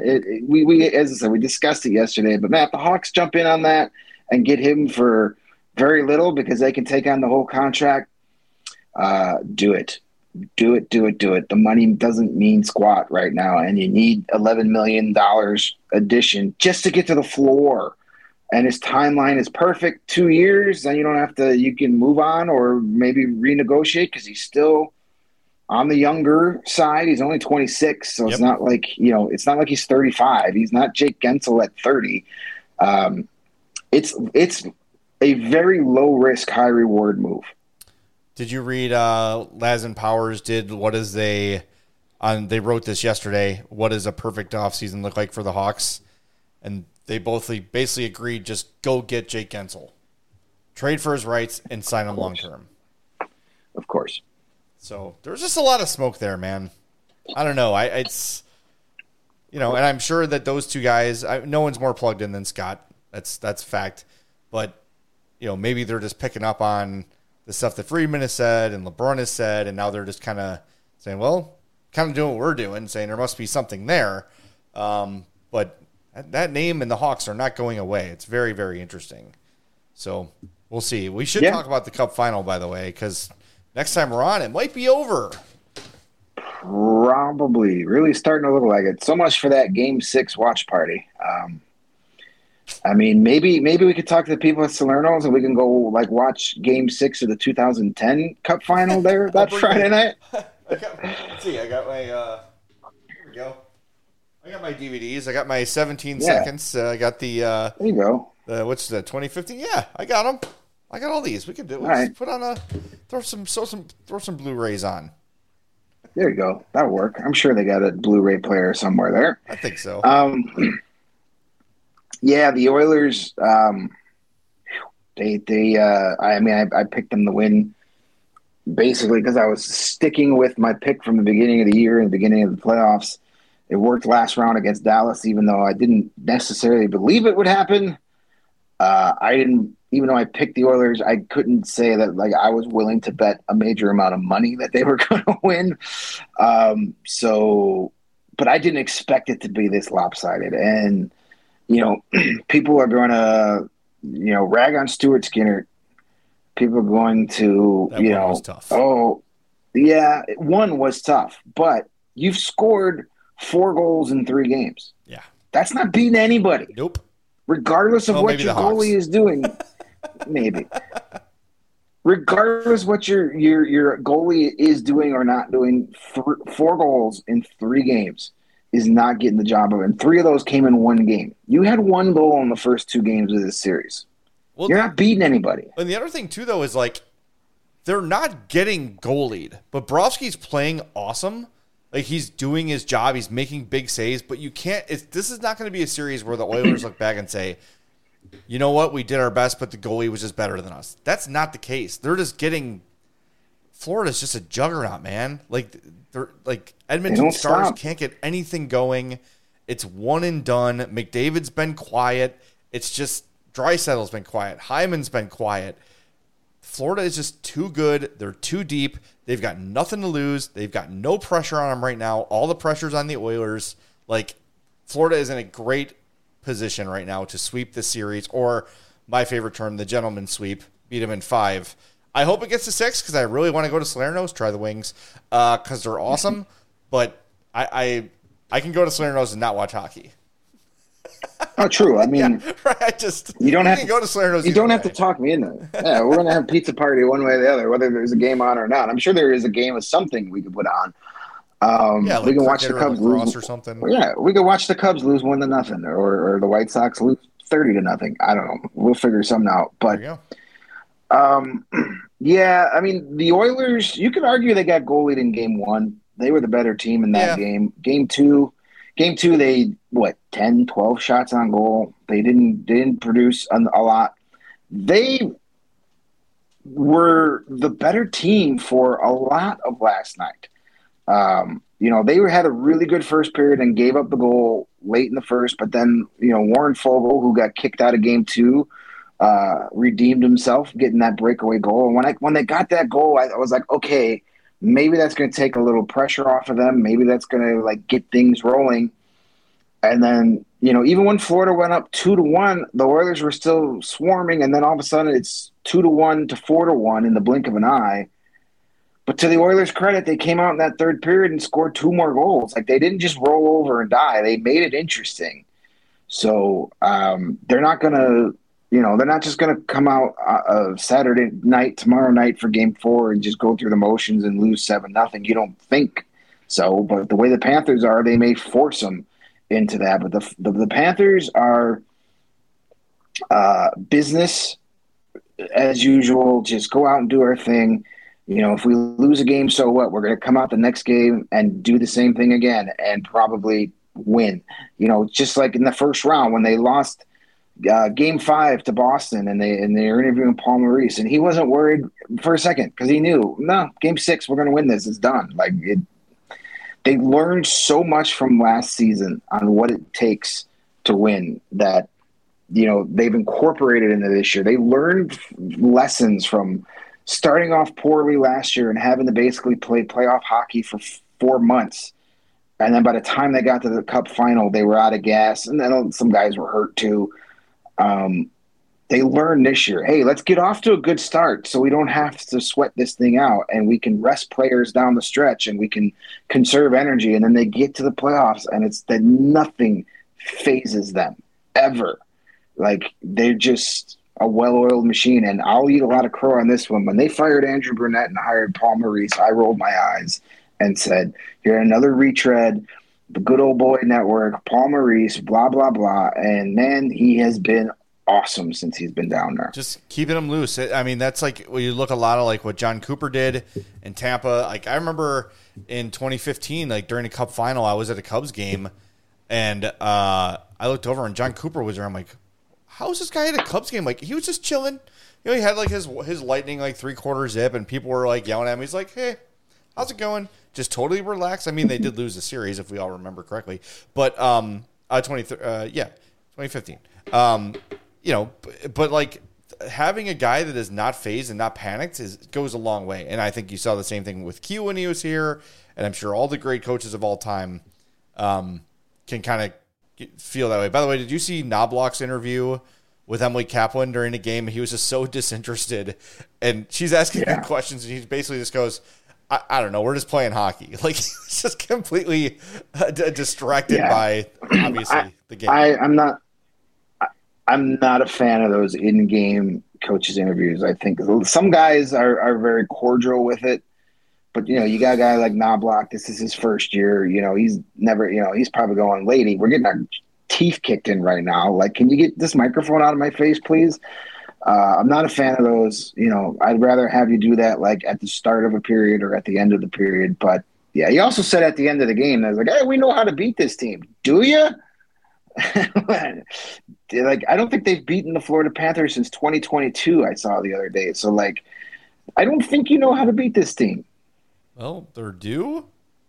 We as I said, we discussed it yesterday. But Matt, the Hawks jump in on that and get him for very little because they can take on the whole contract, do it. Do it. The money doesn't mean squat right now, and you need $11 million addition just to get to the floor. And his timeline is perfect. 2 years, then you can move on or maybe renegotiate because he's still on the younger side. He's only 26, so It's not like, it's not like he's 35. He's not Jake Gensel at 30. It's a very low risk, high reward move. Did you read Laz and Powers did they wrote this yesterday, what does a perfect offseason look like for the Hawks? And they both basically agreed, just go get Jake Gensel. Trade for his rights and sign him long term. Of course. So there's just a lot of smoke there, man. I don't know. It's and I'm sure that those two guys, no one's more plugged in than Scott. That's fact. But maybe they're just picking up on the stuff that Friedman has said and LeBron has said, and now they're just kind of saying, well, kind of doing what we're doing, saying there must be something there. But that name and the Hawks are not going away. It's very, very interesting. So we'll see. We should talk about the Cup final, by the way, because next time we're on, it might be over. Probably. Really starting to look like it. So much for that Game 6 watch party. Maybe we could talk to the people at Salerno's and we can go watch Game 6 of the 2010 Cup final there that Friday night. Let's see. I got my here we go. I got my DVDs. I got my 17 seconds. I got the there you go. What's the 2015? Yeah, I got them. I got all these. We could do. Let's put on throw some Blu-rays on. There you go. That'll work. I'm sure they got a Blu-ray player somewhere there. I think so. Yeah, the Oilers. I picked them to win basically because I was sticking with my pick from the beginning of the year and the beginning of the playoffs. It worked last round against Dallas, even though I didn't necessarily believe it would happen. Even though I picked the Oilers, I couldn't say that I was willing to bet a major amount of money that they were going to win. But I didn't expect it to be this lopsided. And people are going to, rag on Stuart Skinner. People are going to, that one was tough. Oh, yeah, one was tough. But you've scored 4 goals in 3 games. Yeah. That's not beating anybody. Nope. Regardless of what your goalie is doing. Maybe. Regardless what your goalie is doing or not doing, 4 goals in 3 games is not getting the job of it. And 3 of those came in 1 game. You had 1 goal in the first 2 games of this series. Well, you're not beating anybody. And the other thing, too, though, is they're not getting goalied. But Bobrovsky's playing awesome. He's doing his job. He's making big saves. But you can't – this is not going to be a series where the Oilers look back and say, you know what, we did our best, but the goalie was just better than us. That's not the case. They're just getting – Florida's just a juggernaut, man. Edmonton Stars can't get anything going. It's one and done. McDavid's been quiet. It's just Draisaitl's been quiet. Hyman's been quiet. Florida is just too good. They're too deep. They've got nothing to lose. They've got no pressure on them right now. All the pressure's on the Oilers. Florida is in a great position right now to sweep this series, or my favorite term, the gentleman sweep, beat them in 5. I hope it gets to 6 because I really want to go to Salerno's, try the wings, because they're awesome. But I can go to Salerno's and not watch hockey. Oh, true. I mean, yeah, right. You don't have to go to Salerno's. You don't have to talk me into it. Yeah, we're gonna have pizza party one way or the other, whether there's a game on or not. I'm sure there is a game of something we could put on. We can watch the Cubs lose or something. Yeah, we could watch the Cubs lose 1-0, or the White Sox lose 30-0. I don't know. We'll figure something out. But there you go. Yeah, I mean, the Oilers, you could argue they got goalied in Game 1. They were the better team in that game. Game 2, they, 10, 12 shots on goal. They didn't produce a lot. They were the better team for a lot of last night. They had a really good first period and gave up the goal late in the first, but then, Warren Fogle, who got kicked out of Game 2, redeemed himself, getting that breakaway goal. And when they got that goal, I was like, okay, maybe that's going to take a little pressure off of them. Maybe that's going to get things rolling. And then, even when Florida went up 2-1, the Oilers were still swarming. And then all of a sudden it's 2-1 to 4-1 in the blink of an eye. But to the Oilers' credit, they came out in that third period and scored 2 more goals. Like, they didn't just roll over and die. They made it interesting. So they're not going to, they're not just going to come out Saturday night, tomorrow night for Game 4 and just go through the motions and lose 7-0. You don't think so. But the way the Panthers are, they may force them into that. But the Panthers are business as usual. Just go out and do our thing. If we lose a game, so what? We're going to come out the next game and do the same thing again and probably win. Just like in the first round when they lost Game 5 to Boston and they're interviewing Paul Maurice, and he wasn't worried for a second because he knew, no, Game 6, we're going to win this. It's done. They learned so much from last season on what it takes to win that, they've incorporated into this year. They learned lessons from starting off poorly last year and having to basically play playoff hockey for 4 months. And then by the time they got to the Cup final, they were out of gas. And then some guys were hurt too. They learned this year, hey, let's get off to a good start so we don't have to sweat this thing out and we can rest players down the stretch and we can conserve energy. And then they get to the playoffs and it's that nothing phases them ever. Like, they're just a well-oiled machine, and I'll eat a lot of crow on this one. When they fired Andrew Burnett and hired Paul Maurice, I rolled my eyes and said, "You're another retread, the good old boy network, Paul Maurice, blah, blah, blah." And, man, he has been awesome since he's been down there. Just keeping him loose. I mean, that's like when you look a lot of like what John Cooper did in Tampa. Like, I remember in 2015, like during the Cup final, I was at a Cubs game, and I looked over, and John Cooper was there. I'm like, how is this guy at a Cubs game? Like, he was just chilling. He had like his lightning like 3/4 zip, and people were like yelling at him. He's like, "Hey, how's it going?" Just totally relaxed. I mean, they did lose the series if we all remember correctly, but 2015. But like having a guy that is not phased and not panicked goes a long way. And I think you saw the same thing with Q when he was here, and I'm sure all the great coaches of all time can kind of feel that way. By the way, did you see Knobloch's interview with Emily Kaplan during the game? He was just so disinterested, and she's asking him questions, and he basically just goes, I don't know, we're just playing hockey. Like, he was just completely distracted by, obviously, the game. I'm not a fan of those in-game coaches interviews. I think some guys are very cordial with it. But, you got a guy like Knobloch. This is his first year. He's never, he's probably going, "Lady, we're getting our teeth kicked in right now. Like, can you get this microphone out of my face, please?" I'm not a fan of those. I'd rather have you do that like at the start of a period or at the end of the period. But, yeah, he also said at the end of the game, I was like, "Hey, we know how to beat this team. Do you?" Like, I don't think they've beaten the Florida Panthers since 2022, I saw the other day. So, like, I don't think you know how to beat this team. Well, they're due.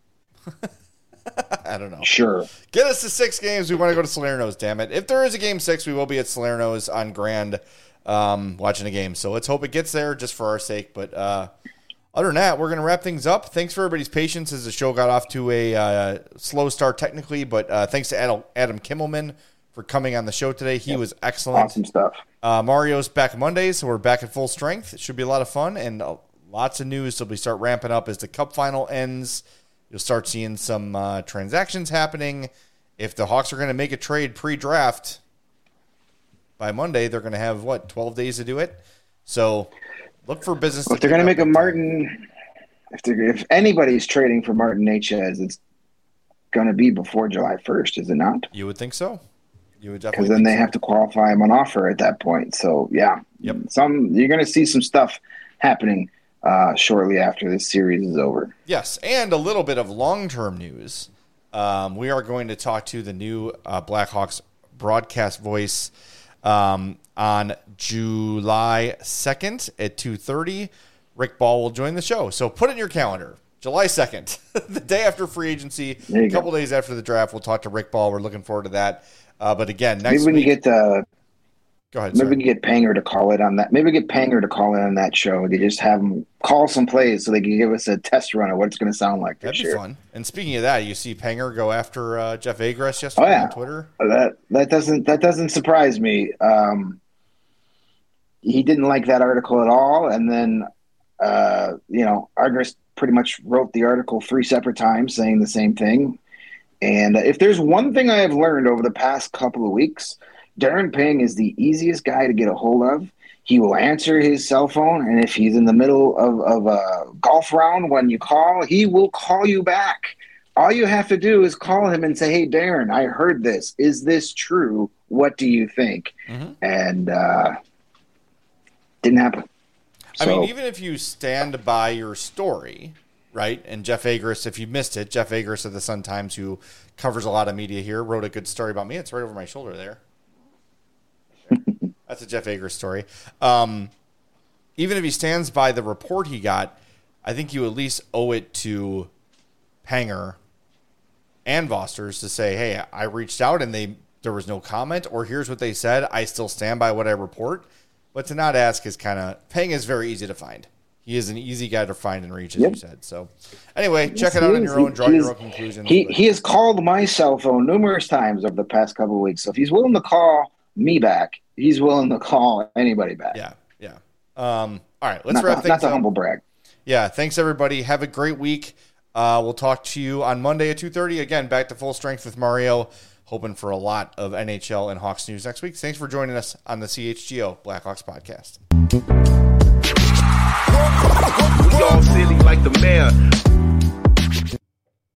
I don't know. Sure. Get us to 6 games. We want to go to Salerno's, damn it. If there is a game 6, we will be at Salerno's on Grand watching a game. So let's hope it gets there just for our sake. But other than that, we're going to wrap things up. Thanks for everybody's patience as the show got off to a slow start technically. But thanks to Adam Kimmelman for coming on the show today. He was excellent. Awesome stuff. Mario's back Monday, so we're back at full strength. It should be a lot of fun and lots of news. So we start ramping up as the Cup final ends. You'll start seeing some transactions happening. If the Hawks are going to make a trade pre-draft by Monday, they're going to have, 12 days to do it? So look for business. If they're going to make a Martin, if anybody's trading for Martin Necas, it's going to be before July 1st, is it not? You would think so. You would Because definitely. then they have to qualify him on offer at that point. So, yeah. Yep. You're going to see some stuff happening shortly after this series is over. Yes, and a little bit of long-term news. We are going to talk to the new Blackhawks broadcast voice on July 2nd at 2:30. Rick Ball will join the show. So put it in your calendar. July 2nd, the day after free agency, a couple days after the draft, we'll talk to Rick Ball. We're looking forward to that. But again, next week. Maybe we can get Go ahead. Maybe we can get Panger to call it on that. Maybe get Panger to call in on that show. They just have him call some plays so they can give us a test run of what it's going to sound like. That'd be fun. And speaking of that, you see Panger go after Jeff Agres yesterday on Twitter. That doesn't surprise me. He didn't like that article at all, and then Agres pretty much wrote the article 3 separate times saying the same thing. And if there's one thing I have learned over the past couple of weeks, Darren Pang is the easiest guy to get a hold of. He will answer his cell phone, and if he's in the middle of a golf round when you call, he will call you back. All you have to do is call him and say, hey, Darren, I heard this. Is this true? What do you think? Mm-hmm. And didn't happen. I mean, even if you stand by your story, right, and Jeff Agres, if you missed it, Jeff Agres of the Sun-Times, who covers a lot of media here, wrote a good story about me. It's right over my shoulder there. That's a Jeff Agres story. Even if he stands by the report he got, I think you at least owe it to Panger and Vosters to say, hey, I reached out and there was no comment, or here's what they said. I still stand by what I report. But to not ask is kind of... Pang is very easy to find. He is an easy guy to find and reach, as you said. So, anyway, check it out on your own. Draw your own conclusions. He has called my cell phone numerous times over the past couple of weeks. So if he's willing to call me back, he's willing to call anybody back. Yeah. All right, let's wrap things up. Not to humble brag. Yeah, thanks, everybody. Have a great week. We'll talk to you on Monday at 2:30. Again, back to Full Strength with Mario. Hoping for a lot of NHL and Hawks news next week. Thanks for joining us on the CHGO Blackhawks podcast. We all silly like the mayor.